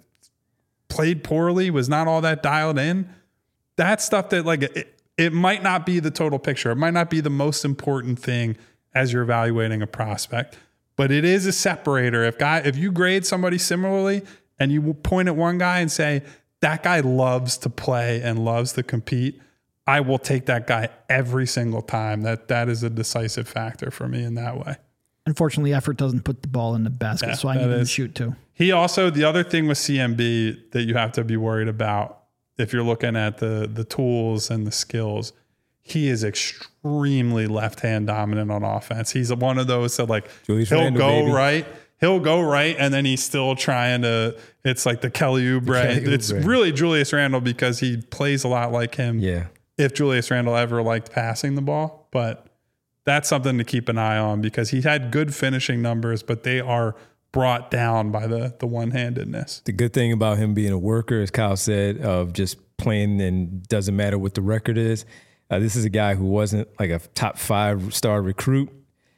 played poorly, was not all that dialed in. That's stuff that like, it, It might not be the total picture. It might not be the most important thing as you're evaluating a prospect, but it is a separator. If guy, if you grade somebody similarly and you point at one guy and say, that guy loves to play and loves to compete, I will take that guy every single time. That that is a decisive factor for me in that way. unfortunately, effort doesn't put the ball in the basket, Yeah, so I that need him to is- shoot too. He also, the other thing with C M B that you have to be worried about if you're looking at the the tools and the skills, he is extremely left-hand dominant on offense. He's one of those that like Julius he'll Randle, go baby. right, he'll go right, and then he's still trying to. It's like the Kelly Oubre. Kelly It's Oubre. really Julius Randle because he plays a lot like him. Yeah. If Julius Randle ever liked passing the ball, but that's something to keep an eye on because he had good finishing numbers, but they are brought down by the the one-handedness. The good thing about him being a worker, as Kyle said, of just playing and doesn't matter what the record is. Uh, this is a guy who wasn't like a top five star recruit.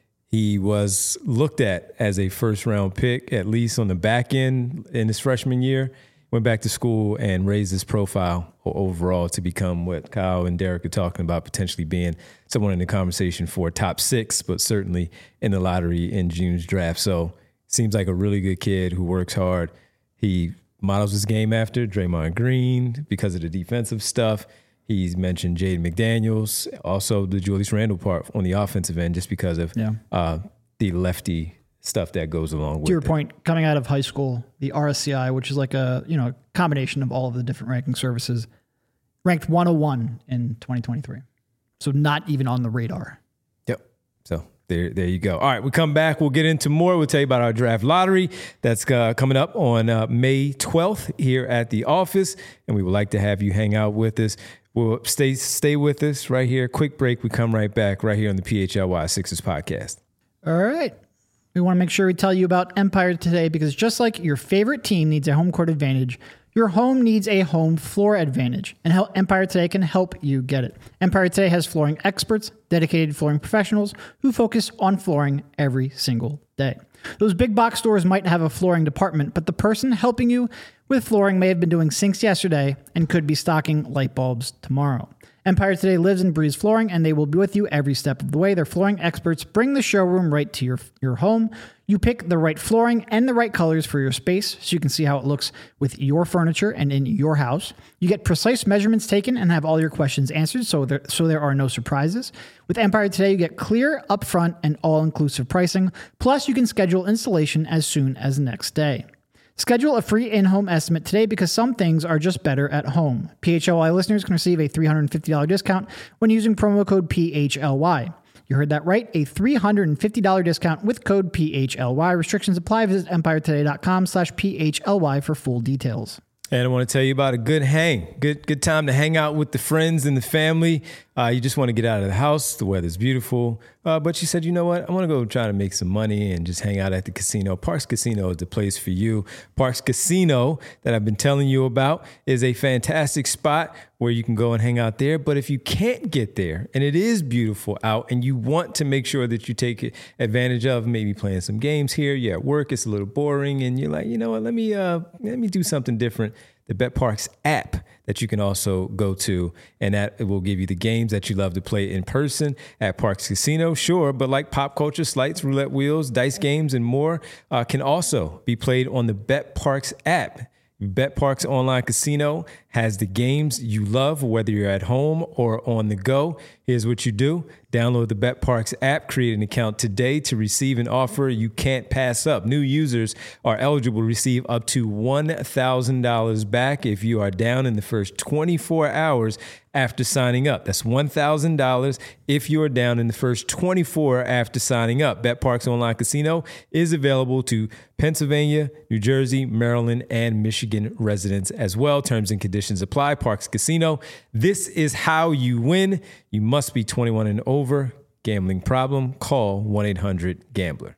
He was looked at as a first round pick, at least on the back end in his freshman year. Went back to school and raised his profile overall to become what Kyle and Derek are talking about, potentially being someone in the conversation for top six, but certainly in the lottery in June's draft. So seems like a really good kid who works hard. He models his game after Draymond Green because of the defensive stuff. He's mentioned Jaden McDaniels, also the Julius Randle part on the offensive end, just because of Yeah. uh, the lefty stuff that goes along with To your it. point, coming out of high school, the R S C I, which is like a you know combination of all of the different ranking services, ranked one oh one in twenty twenty-three. So not even on the radar. Yep. So there, there you go. All right, we come back. We'll get into more. We'll tell you about our draft lottery that's uh, coming up on uh, May twelfth here at the office, and we would like to have you hang out with us. We'll stay stay with us right here. Quick break. We come right back right here on the P H L Y Sixers podcast. All right. We want to make sure we tell you about Empire Today because just like your favorite team needs a home court advantage, your home needs a home floor advantage, and how Empire Today can help you get it. Empire Today has flooring experts, dedicated flooring professionals who focus on flooring every single day. Those big box stores might have a flooring department, but the person helping you with flooring may have been doing sinks yesterday and could be stocking light bulbs tomorrow. Empire Today lives and breathes flooring, and they will be with you every step of the way. Their flooring experts bring the showroom right to your, your home. You pick the right flooring and the right colors for your space so you can see how it looks with your furniture and in your house. You get precise measurements taken and have all your questions answered so there, so there are no surprises. With Empire Today, you get clear, upfront, and all-inclusive pricing. Plus, you can schedule installation as soon as the next day. Schedule a free in-home estimate today because some things are just better at home. P H L Y listeners can receive a three hundred fifty dollars discount when using promo code P H L Y. You heard that right, a three hundred fifty dollars discount with code P H L Y. Restrictions apply. Visit empiretoday.com slash PHLY for full details. And I want to tell you about a good hang, good good time to hang out with the friends and the family. Uh, you just want to get out of the house. The weather's beautiful. Uh, but you said, you know what? I want to go try to make some money and just hang out at the casino. Parks Casino is the place for you. Parks Casino that I've been telling you about is a fantastic spot where you can go and hang out there. But if you can't get there and it is beautiful out and you want to make sure that you take advantage of maybe playing some games here, you're at work, it's a little boring, and you're like, you know what? Let me uh, let me do something different. The BetParks app that you can also go to, and that will give you the games that you love to play in person at Parks Casino, sure, but like pop culture, slights, roulette wheels, dice games, and more uh, can also be played on the BetParks app. BetParks Online Casino has the games you love, whether you're at home or on the go. Here's what you do. Download the BetParks app, create an account today to receive an offer you can't pass up. New users are eligible to receive up to one thousand dollars back if you are down in the first twenty-four hours after signing up. That's one thousand dollars if you are down in the first twenty-four after signing up. BetParks Online Casino is available to Pennsylvania, New Jersey, Maryland, and Michigan residents as well. Terms and conditions apply. Parks Casino. This is how you win. You must be twenty-one and over. Gambling problem? Call one eight hundred gambler.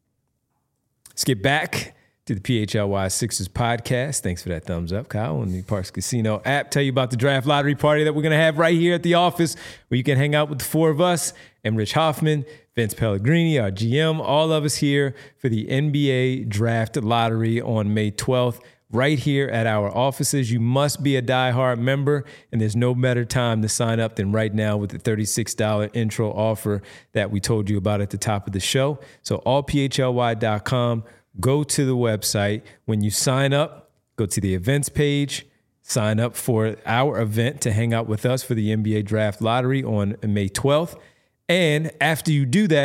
Let's get back to the P H L Y Sixers podcast. Thanks for that thumbs up, Kyle, on the Parks Casino app. Tell you about the draft lottery party that we're going to have right here at the office where you can hang out with the four of us and Rich Hoffman, Vince Pellegrini, our G M, all of us here for the N B A draft lottery on May twelfth. Right here at our offices. You must be a diehard member, and there's no better time to sign up than right now with the thirty-six dollars intro offer that we told you about at the top of the show. So all P H L Y dot com, go to the website. When you sign up, go to the events page, sign up for our event to hang out with us for the N B A Draft Lottery on May twelfth. And after you do that,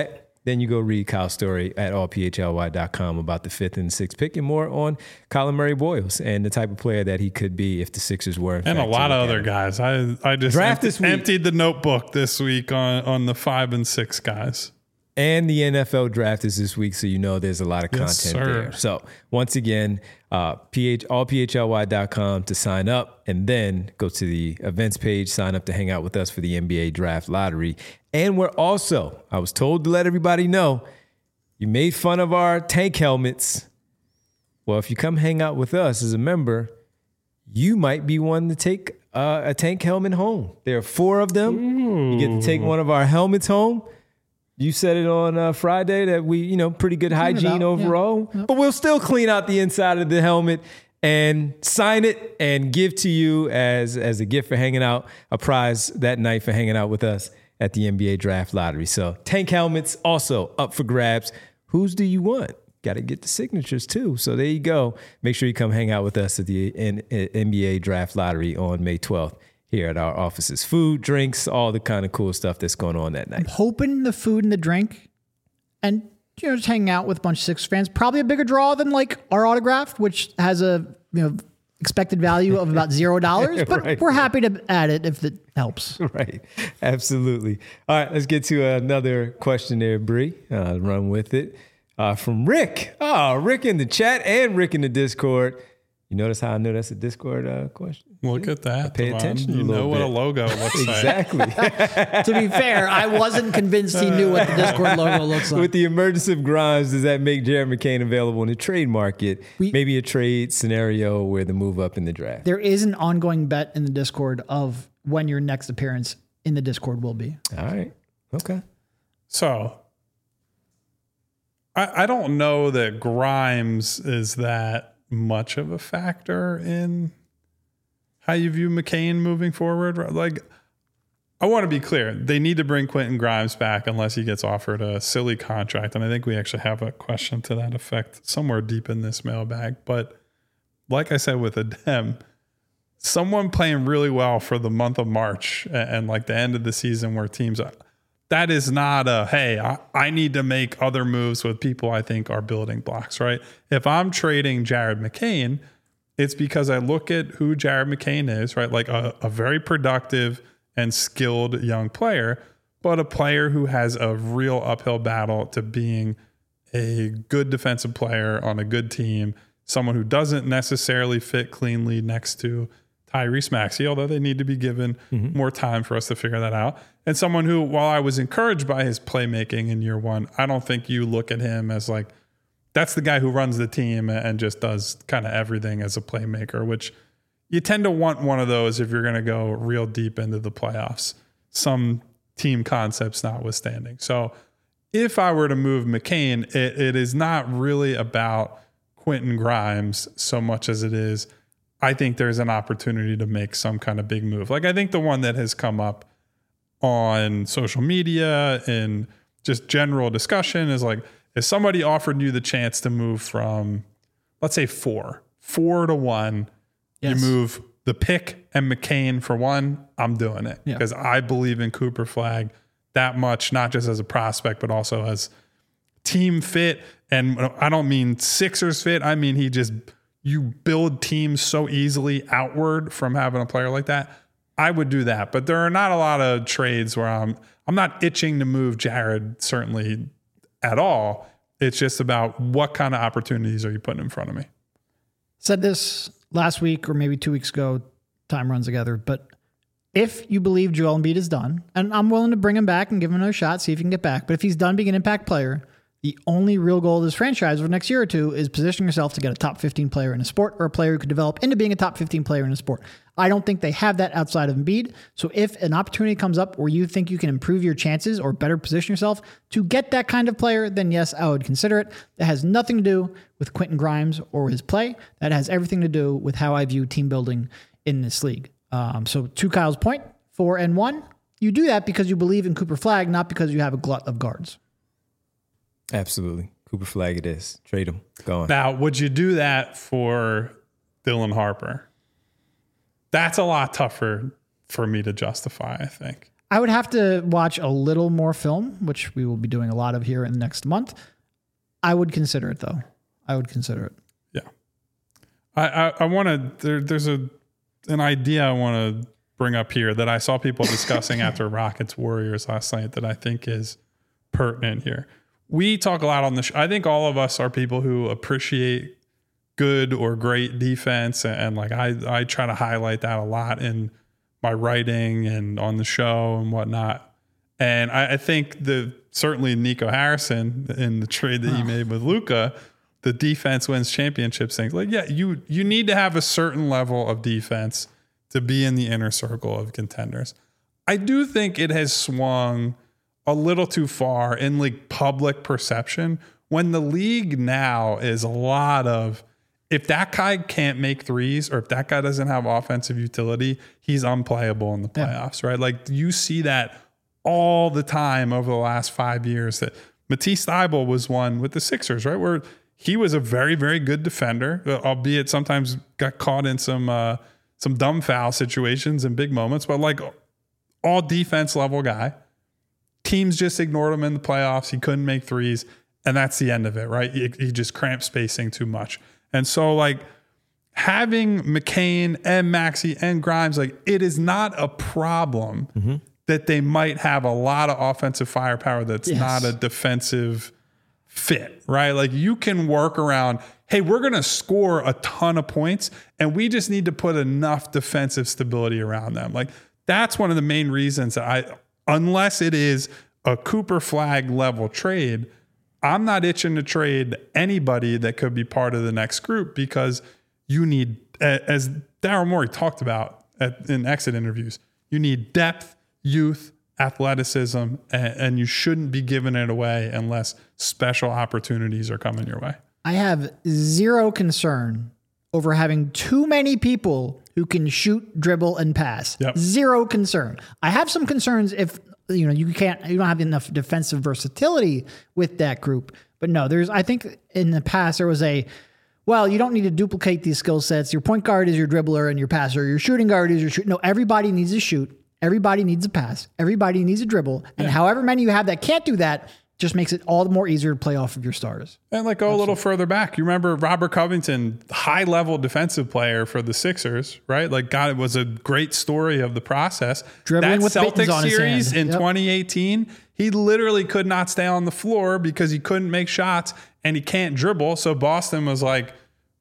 then you go read Kyle's story at all p h l y dot com about the fifth and sixth pick and more on Kyler Murray Boyles and the type of player that he could be if the Sixers were. In and fact a lot to of look other at guys. I I just Draft empty, this week. emptied the notebook this week on, on the five and six guys. And the N F L draft is this week, so you know there's a lot of Yes, content sir. there. So once again, uh, ph, all p h l y dot com to sign up, and then go to the events page, sign up to hang out with us for the N B A Draft Lottery. And we're also, I was told to let everybody know, you made fun of our tank helmets. Well, if you come hang out with us as a member, you might be one to take uh, a tank helmet home. There are four of them. Ooh. You get to take one of our helmets home. You said it on uh, Friday that we, you know, pretty good hygiene overall, yeah. Yep. But we'll still clean out the inside of the helmet and sign it and give to you as, as a gift for hanging out, a prize that night for hanging out with us at the N B A Draft Lottery. So tank helmets also up for grabs. Whose do you want? Got to get the signatures too. So there you go. Make sure you come hang out with us at the N B A Draft Lottery on May twelfth. Here at our offices. Food, drinks, all the kind of cool stuff that's going on that night. I'm hoping the food and the drink and, you know, just hanging out with a bunch of Sixers fans, probably a bigger draw than like our autograph, which has a, you know, expected value of about zero dollars, but right. We're happy to add it if it helps. Right. Absolutely. All right. Let's get to another question there, Bree. Uh, run with it. Uh, from Rick. Oh, Rick in the chat and Rick in the Discord. You notice how I know that's a Discord uh, question? Look at that. I pay attention. You a know what bit. a logo looks exactly. like. Exactly. To be fair, I wasn't convinced he knew what the Discord logo looks like. With the emergence of Grimes, does that make Jared McCain available in the trade market? We, Maybe a trade scenario where the move up in the draft. There is an ongoing bet in the Discord of when your next appearance in the Discord will be. All right. Okay. So I, I don't know that Grimes is that much of a factor in how you view McCain moving forward. Like, I want to be clear. They need to bring Quentin Grimes back unless he gets offered a silly contract. And I think we actually have a question to that effect somewhere deep in this mailbag. But like I said with Adem, someone playing really well for the month of March and, and like the end of the season where teams are, that is not a, hey, I, I need to make other moves with people I think are building blocks, right? If I'm trading Jared McCain, it's because I look at who Jared McCain is, right? Like a, a very productive and skilled young player, but a player who has a real uphill battle to being a good defensive player on a good team, someone who doesn't necessarily fit cleanly next to Tyrese Maxey, although they need to be given mm-hmm. more time for us to figure that out. And someone who, while I was encouraged by his playmaking in year one, I don't think you look at him as like, that's the guy who runs the team and just does kind of everything as a playmaker, which you tend to want one of those if you're going to go real deep into the playoffs, some team concepts notwithstanding. So if I were to move McCain, it, it is not really about Quentin Grimes so much as it is, I think there's an opportunity to make some kind of big move. Like I think the one that has come up on social media and just general discussion is like, if somebody offered you the chance to move from, let's say four, four to one, yes. You move the pick and McCain for one, I'm doing it because yeah. I believe in Cooper Flagg that much, not just as a prospect, but also as team fit. And I don't mean Sixers fit. I mean, he just, you build teams so easily outward from having a player like that. I would do that, but there are not a lot of trades where I'm I'm not itching to move Jared certainly at all. It's just about what kind of opportunities are you putting in front of me. Said this last week or maybe two weeks ago. Time runs together, but if you believe Joel Embiid is done, and I'm willing to bring him back and give him another shot, see if he can get back. But if he's done being an impact player, the only real goal of this franchise over the next year or two is positioning yourself to get a top fifteen player in a sport or a player who could develop into being a top fifteen player in a sport. I don't think they have that outside of Embiid. So if an opportunity comes up where you think you can improve your chances or better position yourself to get that kind of player, then yes, I would consider it. That has nothing to do with Quentin Grimes or his play. That has everything to do with how I view team building in this league. Um, so to Kyle's point, four and one, you do that because you believe in Cooper Flagg, not because you have a glut of guards. Absolutely. Cooper Flagg it is. Trade him. Go on. Now, would you do that for Dylan Harper? That's a lot tougher for me to justify, I think. I would have to watch a little more film, which we will be doing a lot of here in the next month. I would consider it, though. I would consider it. Yeah. I, I, I want to, there, there's a an idea I want to bring up here that I saw people discussing after Rockets Warriors last night that I think is pertinent here. We talk a lot on the show. I think all of us are people who appreciate good or great defense. And, and like I, I try to highlight that a lot in my writing and on the show and whatnot. And I, I think the certainly Nico Harrison in the trade that oh. he made with Luka, the defense wins championships thing. Like, yeah, you you need to have a certain level of defense to be in the inner circle of contenders. I do think it has swung a little too far in like public perception when the league now is a lot of, if that guy can't make threes or if that guy doesn't have offensive utility, he's unplayable in the playoffs, yeah. right? Like you see that all the time over the last five years that Matisse Thybulle was one with the Sixers, right? Where he was a very, very good defender, albeit sometimes got caught in some uh, some dumb foul situations and big moments, but like all defense level guy. Teams just ignored him in the playoffs. He couldn't make threes, and that's the end of it, right? He, he just cramped spacing too much. And so like having McCain and Maxey and Grimes, like it is not a problem mm-hmm. that they might have a lot of offensive firepower that's yes. not a defensive fit, right? Like you can work around, hey, we're going to score a ton of points and we just need to put enough defensive stability around them. Like that's one of the main reasons that I, unless it is a Cooper Flag level trade, I'm not itching to trade anybody that could be part of the next group because you need, as Daryl Morey talked about at, in exit interviews, you need depth, youth, athleticism, and, and you shouldn't be giving it away unless special opportunities are coming your way. I have zero concern over having too many people who can shoot, dribble, and pass. Yep. Zero concern. I have some concerns if you know you can't, you don't have enough defensive versatility with that group. But no, there's. I think in the past there was a, well, you don't need to duplicate these skill sets. Your point guard is your dribbler and your passer. Your shooting guard is your shoot. No, everybody needs to shoot. Everybody needs a pass. Everybody needs a dribble. And yeah. however many you have that can't do that, just makes it all the more easier to play off of your stars. And like go Absolutely. a little further back. You remember Robert Covington, high level defensive player for the Sixers, right? Like God, it was a great story of the process. Dribbling that with Celtics on series his in yep. twenty eighteen, he literally could not stay on the floor because he couldn't make shots and he can't dribble. So Boston was like,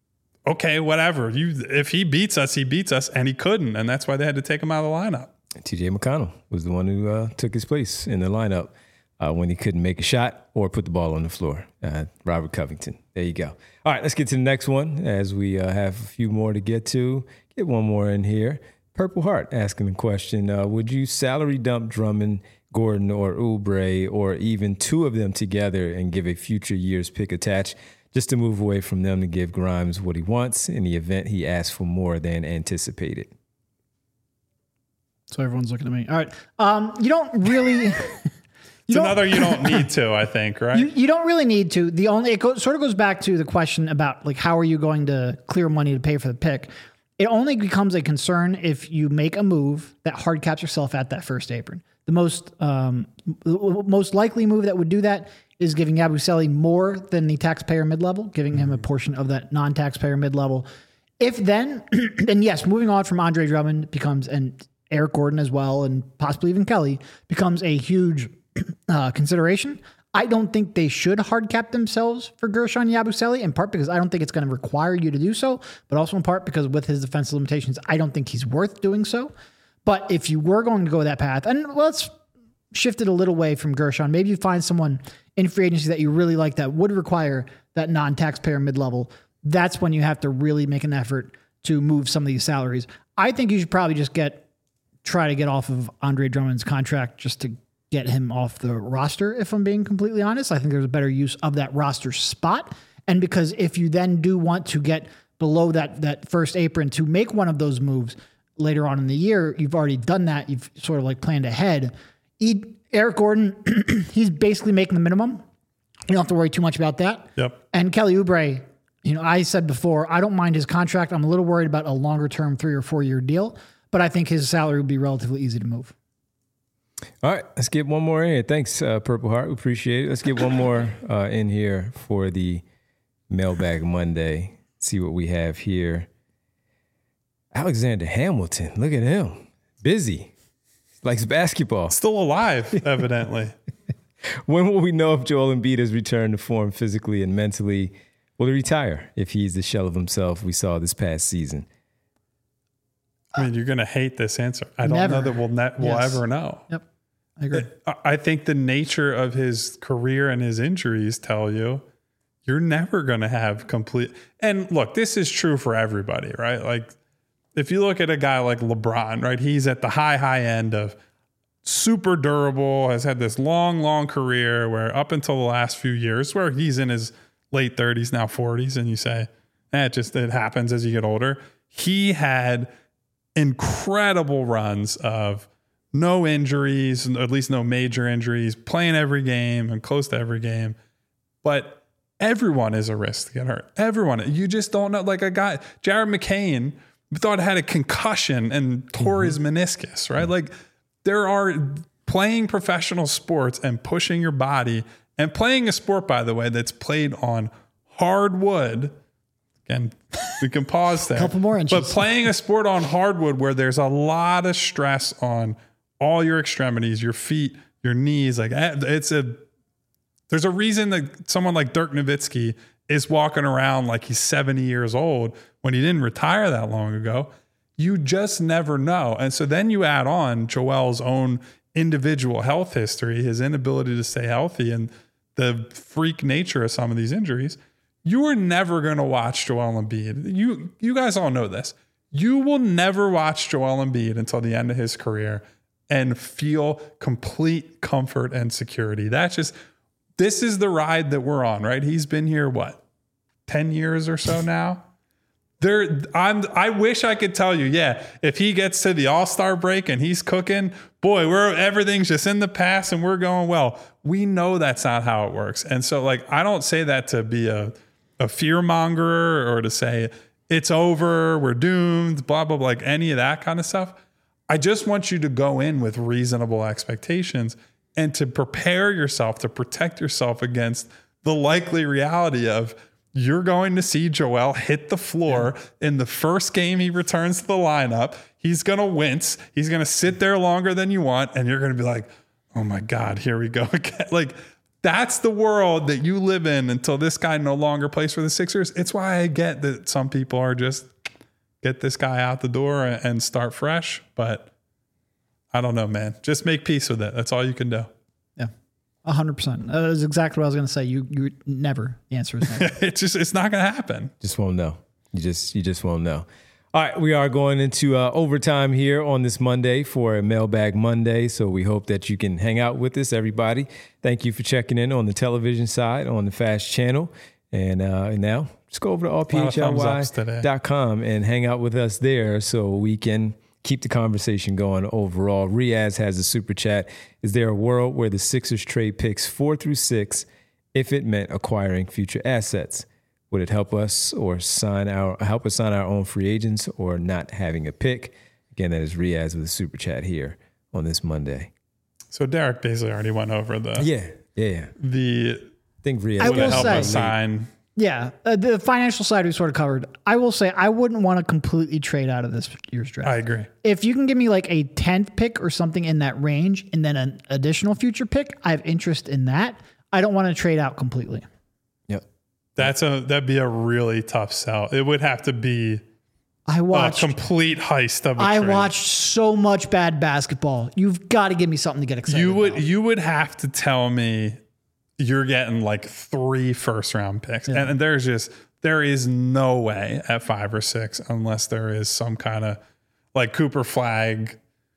okay, whatever. You, if he beats us, he beats us, and he couldn't, and that's why they had to take him out of the lineup. T J McConnell was the one who uh, took his place in the lineup uh, when he couldn't make a shot or put the ball on the floor. Uh, Robert Covington. There you go. All right, let's get to the next one as we uh, have a few more to get to. Get one more in here. Purple Heart asking the question, uh, would you salary dump Drummond, Gordon, or Oubre, or even two of them together and give a future year's pick attached just to move away from them to give Grimes what he wants in the event he asks for more than anticipated? So everyone's looking at me. All right. Um, you don't really... you it's don't, another you don't need to, I think, right? You, you don't really need to. The only... It go, sort of goes back to the question about, like, how are you going to clear money to pay for the pick? It only becomes a concern if you make a move that hard caps yourself at that first apron. The most um, most likely move that would do that is giving Yabusele more than the taxpayer mid-level, giving him a portion of that non-taxpayer mid-level. If then, then yes, moving on from Andre Drummond becomes, and Eric Gordon as well, and possibly even Kelly, becomes a huge uh, consideration. I don't think they should hard cap themselves for Gershon Yabusele, in part because I don't think it's going to require you to do so, but also in part because with his defensive limitations, I don't think he's worth doing so. But if you were going to go that path, and let's shift it a little way from Gershon, maybe you find someone in free agency that you really like that would require that non-taxpayer mid-level. That's when you have to really make an effort to move some of these salaries. I think you should probably just get try to get off of Andre Drummond's contract just to get him off the roster, if I'm being completely honest. I think there's a better use of that roster spot. And because if you then do want to get below that that first apron to make one of those moves later on in the year, you've already done that. You've sort of like planned ahead. E- Eric Gordon, he's basically making the minimum. You don't have to worry too much about that. Yep. And Kelly Oubre, you know, I said before, I don't mind his contract. I'm a little worried about a longer term three or four year deal, but I think his salary would be relatively easy to move. All right, let's get one more in here. Thanks, uh, Purple Heart. We appreciate it. Let's get one more uh, in here for the Mailbag Monday. See what we have here. Alexander Hamilton. Look at him. Busy. Likes basketball. Still alive, evidently. When will we know if Joel Embiid has returned to form physically and mentally? Will he retire if he's the shell of himself we saw this past season? I mean, you're going to hate this answer. I don't Never. know that we'll, ne- we'll Yes. ever know. Yep. I agree. I- I think the nature of his career and his injuries tell you you're never going to have complete. And look, this is true for everybody, right? Like if you look at a guy like LeBron, right? He's at the high, high end of super durable, has had this long, long career where up until the last few years where he's in his late thirties, now forties, and you say, eh, it just, it happens as you get older. He had incredible runs of no injuries, at least no major injuries, playing every game and close to every game. But everyone is a risk to get hurt. Everyone. You just don't know. Like a guy, Jared McCain, thought had a concussion and tore mm-hmm. his meniscus, right? Mm-hmm. Like there are playing professional sports and pushing your body and playing a sport, by the way, that's played on hardwood. Again, we can pause there. Couple more inches. But playing a sport on hardwood where there's a lot of stress on all your extremities, your feet, your knees, like it's a, there's a reason that someone like Dirk Nowitzki is walking around like he's seventy years old when he didn't retire that long ago. You just never know. And so then you add on Joel's own individual health history, his inability to stay healthy, and the freak nature of some of these injuries. You are never going to watch Joel Embiid. You, you guys all know this. You will never watch Joel Embiid until the end of his career and feel complete comfort and security. That's just, this is the ride that we're on, right? He's been here, what, ten years or so now? There, I'm, I wish I could tell you, yeah, if he gets to the All-Star break and he's cooking, boy, we're everything's just in the past and we're going well. We know that's not how it works. And so, like, I don't say that to be a, a fear monger or to say it's over, we're doomed, blah, blah, blah, like any of that kind of stuff. I just want you to go in with reasonable expectations and to prepare yourself, to protect yourself against the likely reality of you're going to see Joel hit the floor in the first game he returns to the lineup. He's going to wince. He's going to sit there longer than you want. And you're going to be like, oh my God, here we go again. Like, that's the world that you live in until this guy no longer plays for the Sixers. It's why I get that some people are just get this guy out the door and start fresh. But I don't know, man. Just make peace with it. That's all you can do. Yeah, one hundred percent. That is exactly what I was going to say. You you never. The answer is never. It's just, it's not going to happen. Just won't know. You just, you just won't know. All right, we are going into uh, overtime here on this Monday for a Mailbag Monday, so we hope that you can hang out with us, everybody. Thank you for checking in on the television side, on the Fast Channel. And uh, now, just go over to R P H L Y dot com and hang out with us there so we can keep the conversation going overall. Riaz has a super chat. Is there a world where the Sixers trade picks four through six if it meant acquiring future assets? Would it help us or sign our help us sign our own free agents or not having a pick? Again, that is Riaz with a super chat here on this Monday. So Derek basically already went over the yeah yeah the I think Riaz I would will help say, us sign. Yeah, uh, the financial side we sort of covered. I will say I wouldn't want to completely trade out of this year's draft. I agree. If you can give me like a tenth pick or something in that range and then an additional future pick, I have interest in that. I don't want to trade out completely. Yep. That's a that'd be a really tough sell. It would have to be I watched a complete heist of a I trade. watched so much bad basketball. You've got to give me something to get excited You would about. you would have to tell me you're getting like three first round picks. Yeah. And, and there's just there is no way at five or six unless there is some kind of like Cooper Flagg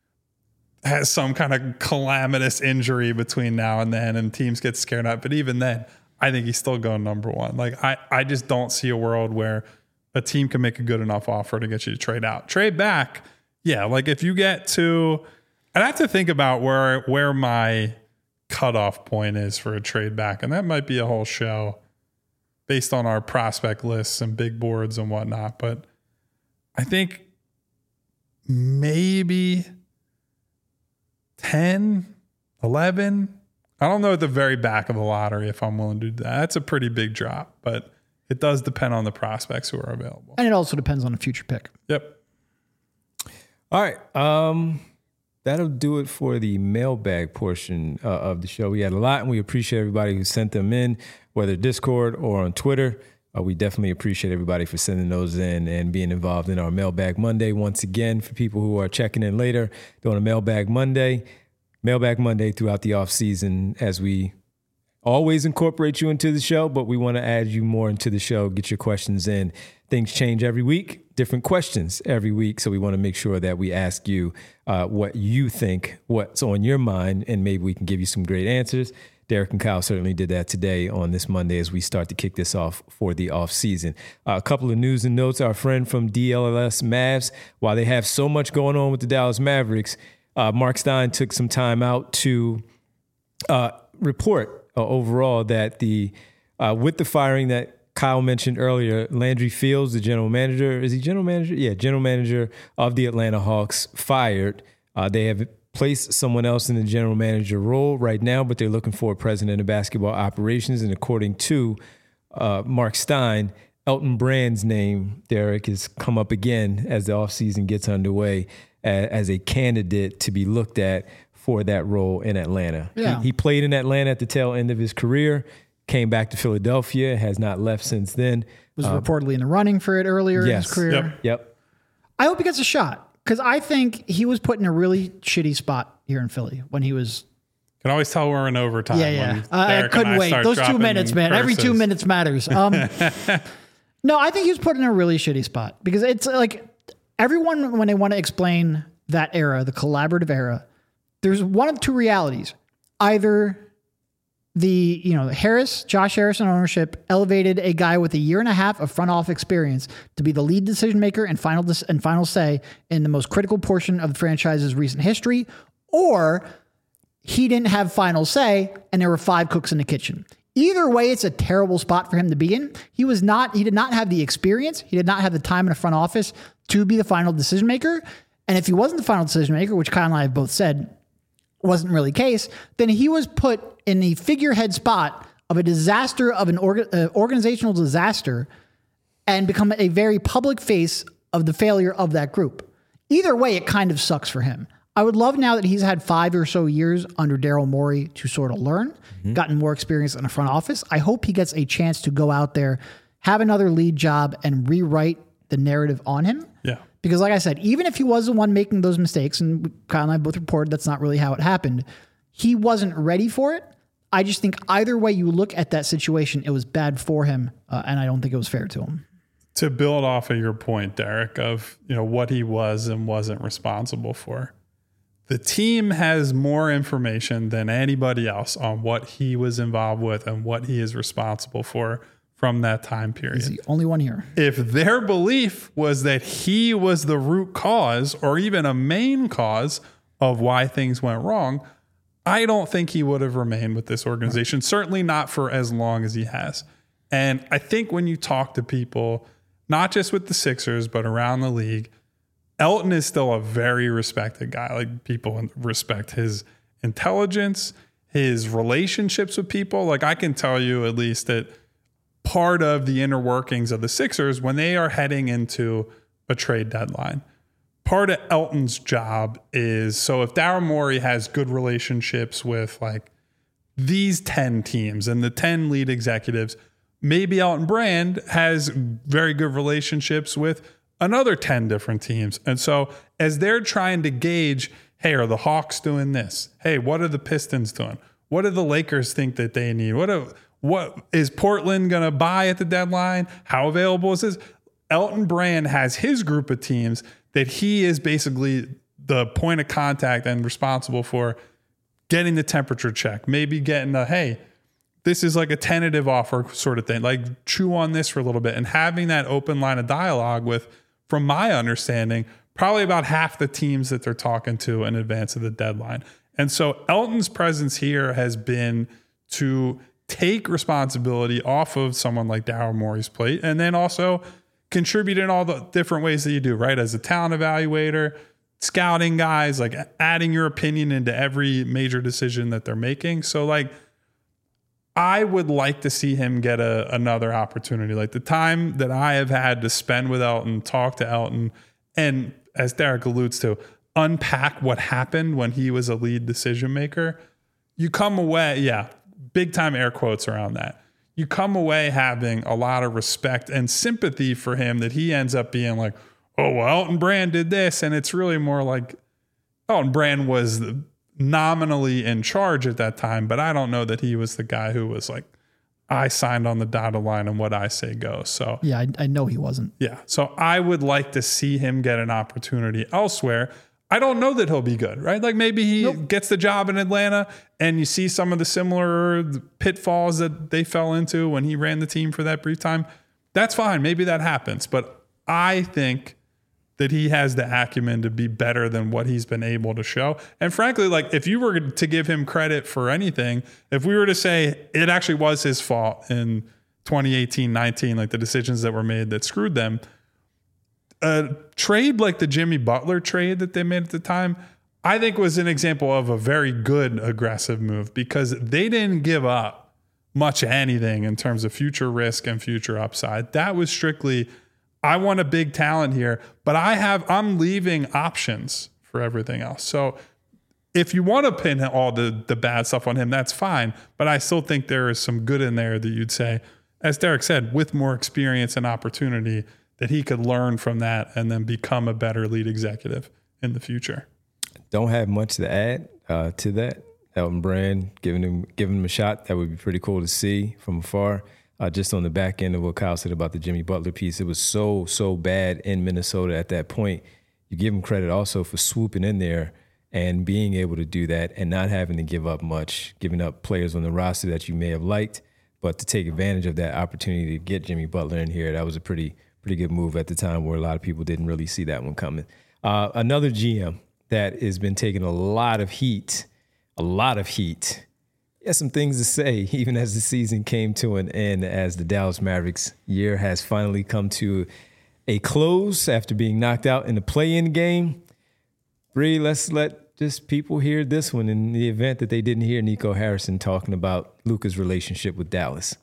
has some kind of calamitous injury between now and then and teams get scared out. But even then, I think he's still going number one. Like I, I just don't see a world where a team can make a good enough offer to get you to trade out. Trade back. Yeah. Like if you get to, I'd have to think about where, where my cutoff point is for a trade back. And that might be a whole show based on our prospect lists and big boards and whatnot. But I think maybe ten, eleven. I don't know at the very back of the lottery if I'm willing to do that. That's a pretty big drop, but it does depend on the prospects who are available. And it also depends on a future pick. Yep. All right. Um, that'll do it for the mailbag portion uh, of the show. We had a lot, and we appreciate everybody who sent them in, whether Discord or on Twitter. Uh, we definitely appreciate everybody for sending those in and being involved in our Mailbag Monday. Once again, for people who are checking in later, doing a Mailbag Monday, Mailbag Monday throughout the off season, as we always incorporate you into the show, but we want to add you more into the show, get your questions in. Things change every week, different questions every week. So we want to make sure that we ask you uh, what you think, what's on your mind, and maybe we can give you some great answers. Derek and Kyle certainly did that today on this Monday as we start to kick this off for the off season. Uh, a couple of news and notes. Our friend from D L L S Mavs, while they have so much going on with the Dallas Mavericks, uh, Mark Stein took some time out to uh, report uh, overall that the uh, with the firing that Kyle mentioned earlier, Landry Fields, the general manager, is he general manager? Yeah, general manager of the Atlanta Hawks, fired. Uh, they have placed someone else in the general manager role right now, but they're looking for a president of basketball operations. And according to uh, Mark Stein, Elton Brand's name, Derek, has come up again as the offseason gets underway as, as a candidate to be looked at for that role in Atlanta. Yeah. He, he played in Atlanta at the tail end of his career, came back to Philadelphia, has not left since then. Was um, reportedly in the running for it earlier yes. in his career. Yep. Yep. I hope he gets a shot. Because I think he was put in a really shitty spot here in Philly when he was. Can always tell we're in overtime. Yeah, yeah. Uh, I couldn't I wait. Those two minutes, man. Curses. Every two minutes matters. Um, no, I think he was put in a really shitty spot because it's like everyone, when they want to explain that era, the collaborative era, there's one of two realities. Either the, you know, Harris, Josh Harrison ownership elevated a guy with a year and a half of front office experience to be the lead decision maker and final dis- and final say in the most critical portion of the franchise's recent history, or he didn't have final say and there were five cooks in the kitchen. Either way, it's a terrible spot for him to be in. He was not, he did not have the experience. He did not have the time in the front office to be the final decision maker. And if he wasn't the final decision maker, which Kyle and I have both said wasn't really the case, then he was put in the figurehead spot of a disaster, of an orga, uh, organizational disaster, and become a very public face of the failure of that group. Either way, it kind of sucks for him. I would love now that he's had five or so years under Daryl Morey to sort of learn, mm-hmm. gotten more experience in the front office. I hope he gets a chance to go out there, have another lead job, and rewrite the narrative on him. Yeah. Because like I said, even if he was the one making those mistakes, and Kyle and I both reported that's not really how it happened, he wasn't ready for it. I just think either way you look at that situation, it was bad for him, uh, and I don't think it was fair to him. To build off of your point, Derek, of you know what he was and wasn't responsible for, the team has more information than anybody else on what he was involved with and what he is responsible for from that time period. He's the only one here. If their belief was that he was the root cause or even a main cause of why things went wrong, I don't think he would have remained with this organization, certainly not for as long as he has. And I think when you talk to people, not just with the Sixers, but around the league, Elton is still a very respected guy. Like people respect his intelligence, his relationships with people. Like I can tell you at least that part of the inner workings of the Sixers when they are heading into a trade deadline, part of Elton's job is, so if Daryl Morey has good relationships with like these ten teams and the ten lead executives, maybe Elton Brand has very good relationships with another ten different teams. And so as they're trying to gauge, hey, are the Hawks doing this? Hey, what are the Pistons doing? What do the Lakers think that they need? What are, what is Portland going to buy at the deadline? How available is this? Elton Brand has his group of teams that he is basically the point of contact and responsible for getting the temperature check, maybe getting a, hey, this is like a tentative offer sort of thing, like chew on this for a little bit, and having that open line of dialogue with, from my understanding, probably about half the teams that they're talking to in advance of the deadline. And so Elton's presence here has been to take responsibility off of someone like Daryl Morey's plate, and then also contribute in all the different ways that you do, right? As a talent evaluator, scouting guys, like adding your opinion into every major decision that they're making. So like, I would like to see him get a, another opportunity. Like the time that I have had to spend with Elton, talk to Elton, and as Derek alludes to, unpack what happened when he was a lead decision maker, you come away, yeah, big time air quotes around that. You come away having a lot of respect and sympathy for him that he ends up being like, oh, well, Elton Brand did this. And it's really more like Elton Brand was nominally in charge at that time, but I don't know that he was the guy who was like, I signed on the dotted line and what I say goes. So yeah, I, I know he wasn't. Yeah. So I would like to see him get an opportunity elsewhere. I don't know that he'll be good, right? Like maybe he nope. gets the job in Atlanta and you see some of the similar pitfalls that they fell into when he ran the team for that brief time. That's fine. Maybe that happens. But I think that he has the acumen to be better than what he's been able to show. And frankly, like if you were to give him credit for anything, if we were to say it actually was his fault in twenty eighteen nineteen, like the decisions that were made that screwed them, a trade like the Jimmy Butler trade that they made at the time, I think was an example of a very good aggressive move because they didn't give up much anything in terms of future risk and future upside. That was strictly, I want a big talent here, but I have, I'm leaving options for everything else. So if you want to pin all the, the bad stuff on him, that's fine. But I still think there is some good in there that you'd say, as Derek said, with more experience and opportunity, that he could learn from that and then become a better lead executive in the future. Don't have much to add uh, to that. Elton Brand, giving him giving him a shot, that would be pretty cool to see from afar. Uh, just on the back end of what Kyle said about the Jimmy Butler piece, it was so, so bad in Minnesota at that point. You give him credit also for swooping in there and being able to do that and not having to give up much, giving up players on the roster that you may have liked, but to take advantage of that opportunity to get Jimmy Butler in here, that was a pretty pretty good move at the time where a lot of people didn't really see that one coming. Uh, another G M that has been taking a lot of heat, a lot of heat. He has some things to say, even as the season came to an end, as the Dallas Mavericks year has finally come to a close after being knocked out in the play-in game. Bree, let's let just people hear this one in the event that they didn't hear Nico Harrison talking about Luka's relationship with Dallas.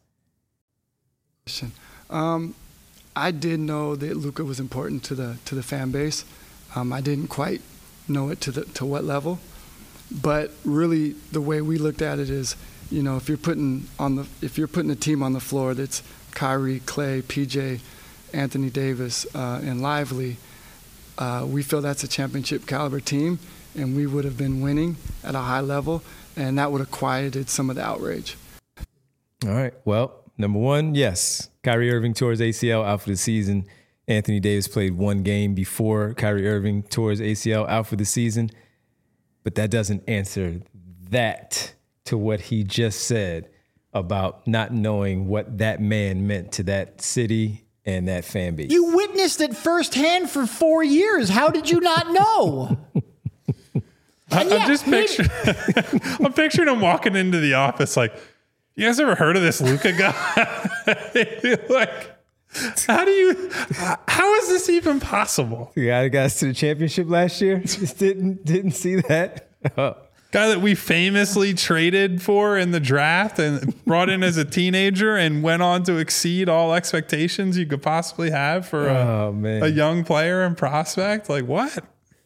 Um, I did know that Luka was important to the to the fan base. Um, I didn't quite know it to the to what level, but really the way we looked at it is, you know, if you're putting on the if you're putting a team on the floor that's Kyrie, Clay, P J, Anthony Davis, uh, and Lively, uh, we feel that's a championship caliber team, and we would have been winning at a high level, and that would have quieted some of the outrage. All right. Well, number one, yes, Kyrie Irving tore his A C L, out for the season. Anthony Davis played one game before Kyrie Irving tore his A C L, out for the season. But that doesn't answer that to what he just said about not knowing what that man meant to that city and that fan base. You witnessed it firsthand for four years. How did you not know? I, yeah, I'm just picturing, I'm picturing him walking into the office like, you guys ever heard of this Luka guy? Like, how do you, how is this even possible? The guy that got us to the championship last year just didn't didn't see that. Oh. Guy that we famously traded for in the draft and brought in as a teenager and went on to exceed all expectations you could possibly have for a, oh, man. a young player and prospect. Like what?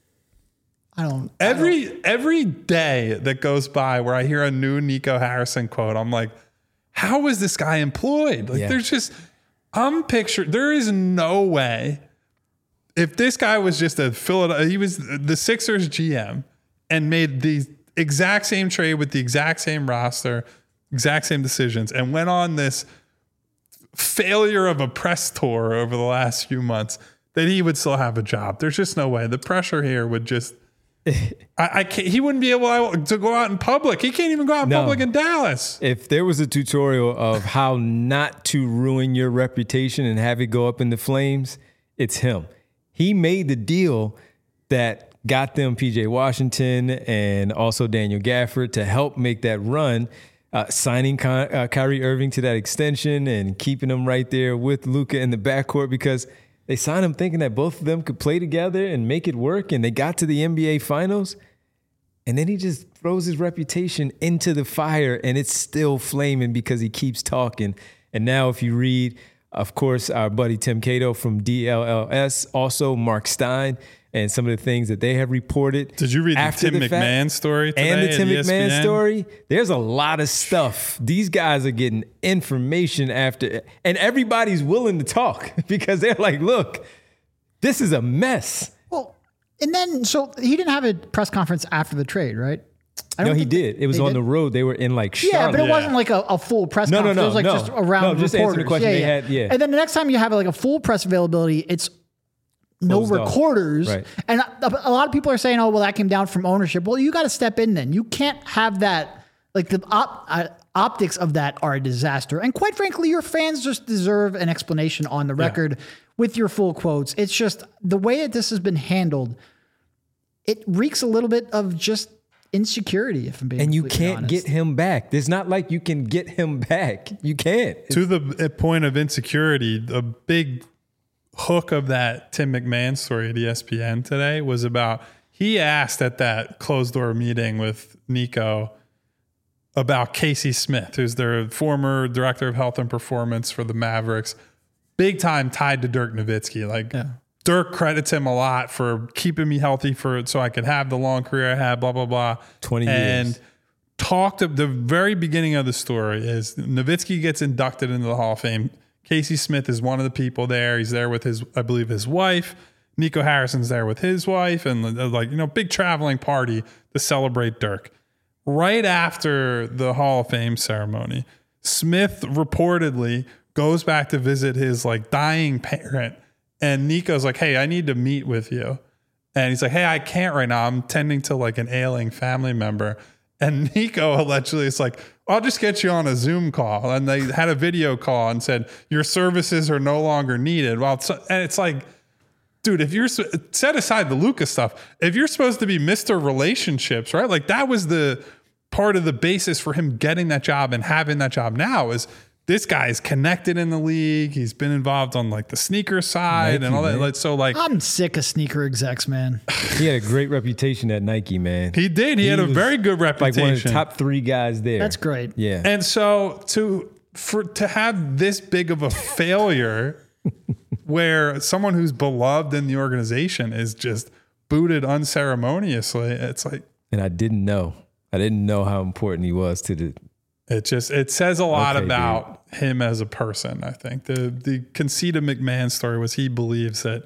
I don't. Every I don't. every day that goes by where I hear a new Nico Harrison quote, I'm like, how is this guy employed? Like, yeah. there's just, I'm picturing, there is no way. If this guy was just a Philadelphia, he was the Sixers G M and made the exact same trade with the exact same roster, exact same decisions, and went on this failure of a press tour over the last few months, that he would still have a job. There's just no way. The pressure here would just, I, I can't, he wouldn't be able to go out in public. He can't even go out in no. public in Dallas. If there was a tutorial of how not to ruin your reputation and have it go up in the flames, it's him. He made the deal that got them P J Washington and also Daniel Gafford to help make that run, uh, signing Ky- uh, Kyrie Irving to that extension and keeping him right there with Luka in the backcourt, because They signed him thinking that both of them could play together and make it work, and they got to the N B A Finals. And then he just throws his reputation into the fire, and it's still flaming because he keeps talking. And now if you read, of course, our buddy Tim Cato from D L L S, also Mark Stein, and some of the things that they have reported. Did you read the after Tim the McMahon fact, story today and the Tim at E S P N? McMahon story? There's a lot of stuff. These guys are getting information after, and everybody's willing to talk because they're like, look, this is a mess. Well, and then, so he didn't have a press conference after the trade, right? I No, don't he think did. It was they on did? the road. They were in like Charlotte. Yeah, but it Yeah. wasn't like a, a full press No, no, conference. no, it was like no. just around No, just answer the reporters. question yeah, they yeah. had, yeah. And then the next time you have like a full press availability, it's no Closed off. recorders. Right. And a, a lot of people are saying, oh, well, that came down from ownership. Well, you got to step in then. You can't have that. Like the op, uh, optics of that are a disaster. And quite frankly, your fans just deserve an explanation on the record with your full quotes. It's just the way that this has been handled, it reeks a little bit of just insecurity, if I'm being And you completely can't honest. get him back. There's not like you can get him back. You can't. To the point of insecurity, the big hook of that Tim McMahon story at E S P N today was about, he asked at that closed door meeting with Nico about Casey Smith, who's their former director of health and performance for the Mavericks, big time tied to Dirk Nowitzki. Like Yeah. Dirk credits him a lot for keeping me healthy for so I could have the long career I had, blah, blah, blah. twenty and years. talked of the very beginning of the story is Nowitzki gets inducted into the Hall of Fame. Casey Smith is one of the people there. He's there with his, I believe, his wife. Nico Harrison's there with his wife, and like, you know, big traveling party to celebrate Dirk. Right after the Hall of Fame ceremony, Smith reportedly goes back to visit his like dying parent, and Nico's like, "Hey, I need to meet with you." And he's like, "Hey, I can't right now. I'm tending to like an ailing family member." And Nico allegedly is like, "I'll just get you on a Zoom call." And they had a video call and said, "Your services are no longer needed." Well, it's, and it's like, dude, if you're set aside the Luka stuff, if you're supposed to be Mister Relationships, right? Like that was the part of the basis for him getting that job and having that job now is this guy is connected in the league. He's been involved on like the sneaker side Nike, and all that. man. Like, so like I'm sick of sneaker execs, man. He had a great reputation at Nike, man. he did. He, had a was very good Like reputation. one of the top three guys there. That's great. Yeah. And so to for to have this big of a failure where someone who's beloved in the organization is just booted unceremoniously, it's like And I didn't know. I didn't know how important he was to the. it just it says a lot Okay, about him as a person, I think. The the conceit of McMahon's story was he believes that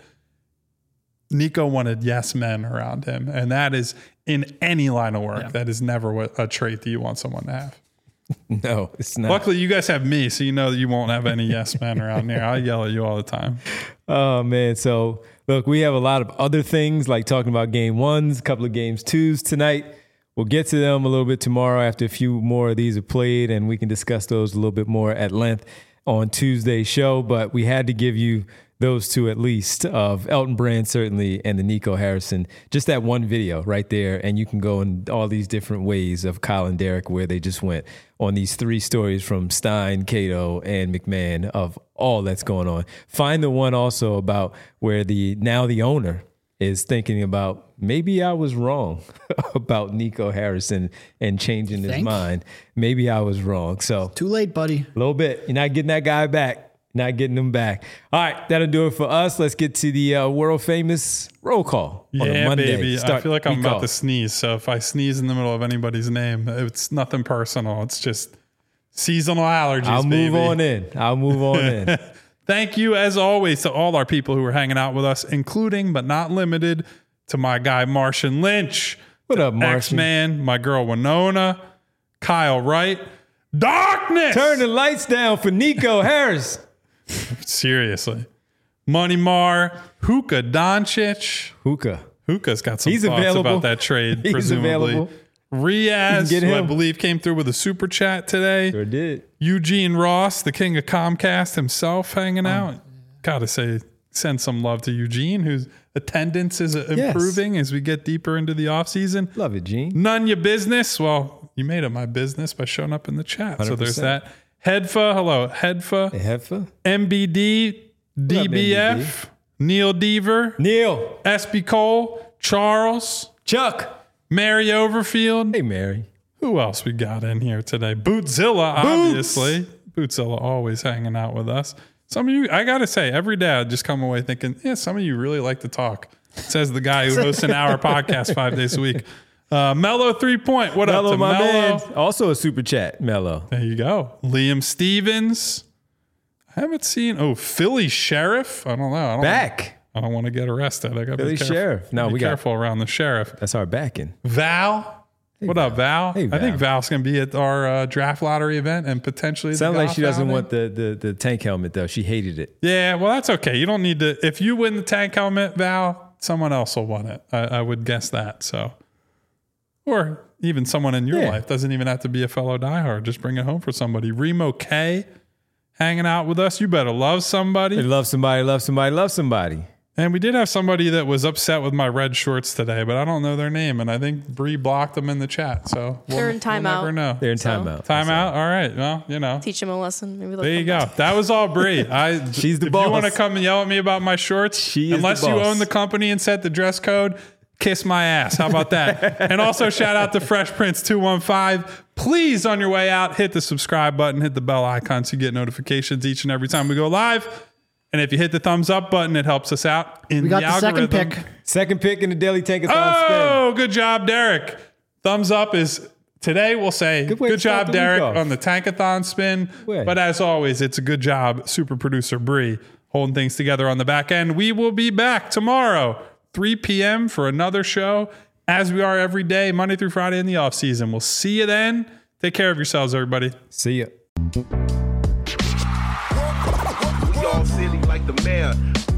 Nico wanted yes men around him. And that is in any line of work. Yeah. That is never what, a trait that you want someone to have. No, it's not. Luckily, you guys have me, so you know that you won't have any yes men around here. I yell at you all the time. Oh man. So look, we have a lot of other things like talking about game ones, a couple of games twos tonight. We'll get to them a little bit tomorrow after a few more of these are played, and we can discuss those a little bit more at length on Tuesday's show. But we had to give you those two at least of Elton Brand, certainly, and the Nico Harrison. Just that one video right there. And you can go in all these different ways of Kyle and Derek where they just went on these three stories from Stein, Cato, and McMahon of all that's going on. Find the one also about where the now the owner is thinking about maybe I was wrong about Nico Harrison and changing his Think? mind. Maybe I was wrong. So Too late, buddy. a little bit. You're not getting that guy back. Not getting him back. All right, that'll do it for us. Let's get to the uh, world famous roll call on a Yeah, Monday. baby. I Start feel like I'm week about off. to sneeze. So if I sneeze in the middle of anybody's name, it's nothing personal. It's just seasonal allergies. I'll move baby. on in. I'll move on in. Thank you, as always, to all our people who are hanging out with us, including but not limited to my guy Martian Lynch, What up, Martian? X-Man, my girl Winona, Kyle Wright, Darkness. Turn the lights down for Nico Harris. Seriously, Money Mar, Hookah Doncic. Hookah. Hookah's got some He's thoughts available. about that trade, He's presumably. available. Riaz, You can get who I him. believe came through with a super chat today. Sure did. Eugene Ross, the king of Comcast himself, hanging Oh. out. Gotta say, send some love to Eugene, whose attendance is improving as we get deeper into the offseason. Love it, Gene. None your business. Well, you made it my business by showing up in the chat. So there's one hundred percent. that. Hedfa, hello. Hedfa. Hey, Heffa. M B D, up, D B F. Neil Deaver, Neil. S B Cole, Charles, Chuck. Mary Overfield. Hey, Mary. Who else we got in here today? Bootzilla, obviously. Bootzilla always hanging out with us. Some of you, I got to say, every day I just come away thinking, yeah, some of you really like to talk. Says the guy who hosts an hour podcast five days a week. Uh, Mello Three Point. What Mello, up to my Mello? man. Also a super chat, Mello. There you go. Liam Stevens. I haven't seen. Oh, Philly Sheriff. I don't know. I don't Back. I don't want to get arrested. I got to Philly be careful. Sheriff. No, be we got- careful around the sheriff. That's our backing. Val. what Val. up, Val? Hey, I think Val. Val's going to be at our uh, draft lottery event and potentially. the Sounds like she golf doesn't outing. want the, the, the tank helmet, though. She hated it. Yeah, well, that's okay. You don't need to. If you win the tank helmet, Val, someone else will win it. I, I would guess that. So, or even someone in your Yeah. life doesn't even have to be a fellow diehard. Just bring it home for somebody. Remo K, hanging out with us. You better love They somebody. love somebody, love somebody, love somebody. And we did have somebody that was upset with my red shorts today, but I don't know their name, and I think Bree blocked them in the chat. So we'll, They're in we'll timeout. never know. They're in So- timeout. Timeout. All right. Well, you know. Teach them a lesson. Maybe they'll There you come go. back. That was all Bree. I, She's the if boss. you want to come and yell at me about my shorts, She is the unless you boss. own the company and set the dress code, kiss my ass. How about that? And also shout out to Fresh Prince two one five. Please, on your way out, hit the subscribe button, hit the bell icon so you get notifications each and every time we go live. And if you hit the thumbs up button, it helps us out in We got the the second algorithm. pick. Second pick in the Daily Tankathon Oh, good job, Derek. Thumbs up is today. We'll say Good good, way to start job, the week Derek, off. on the Tankathon spin. Way. But as always, it's a good job, super producer Bree, holding things together on the back end. We will be back tomorrow, three p.m. for another show, as we are every day, Monday through Friday in the off season. We'll see you then. Take care of yourselves, everybody. See ya. We all silly like the mayor.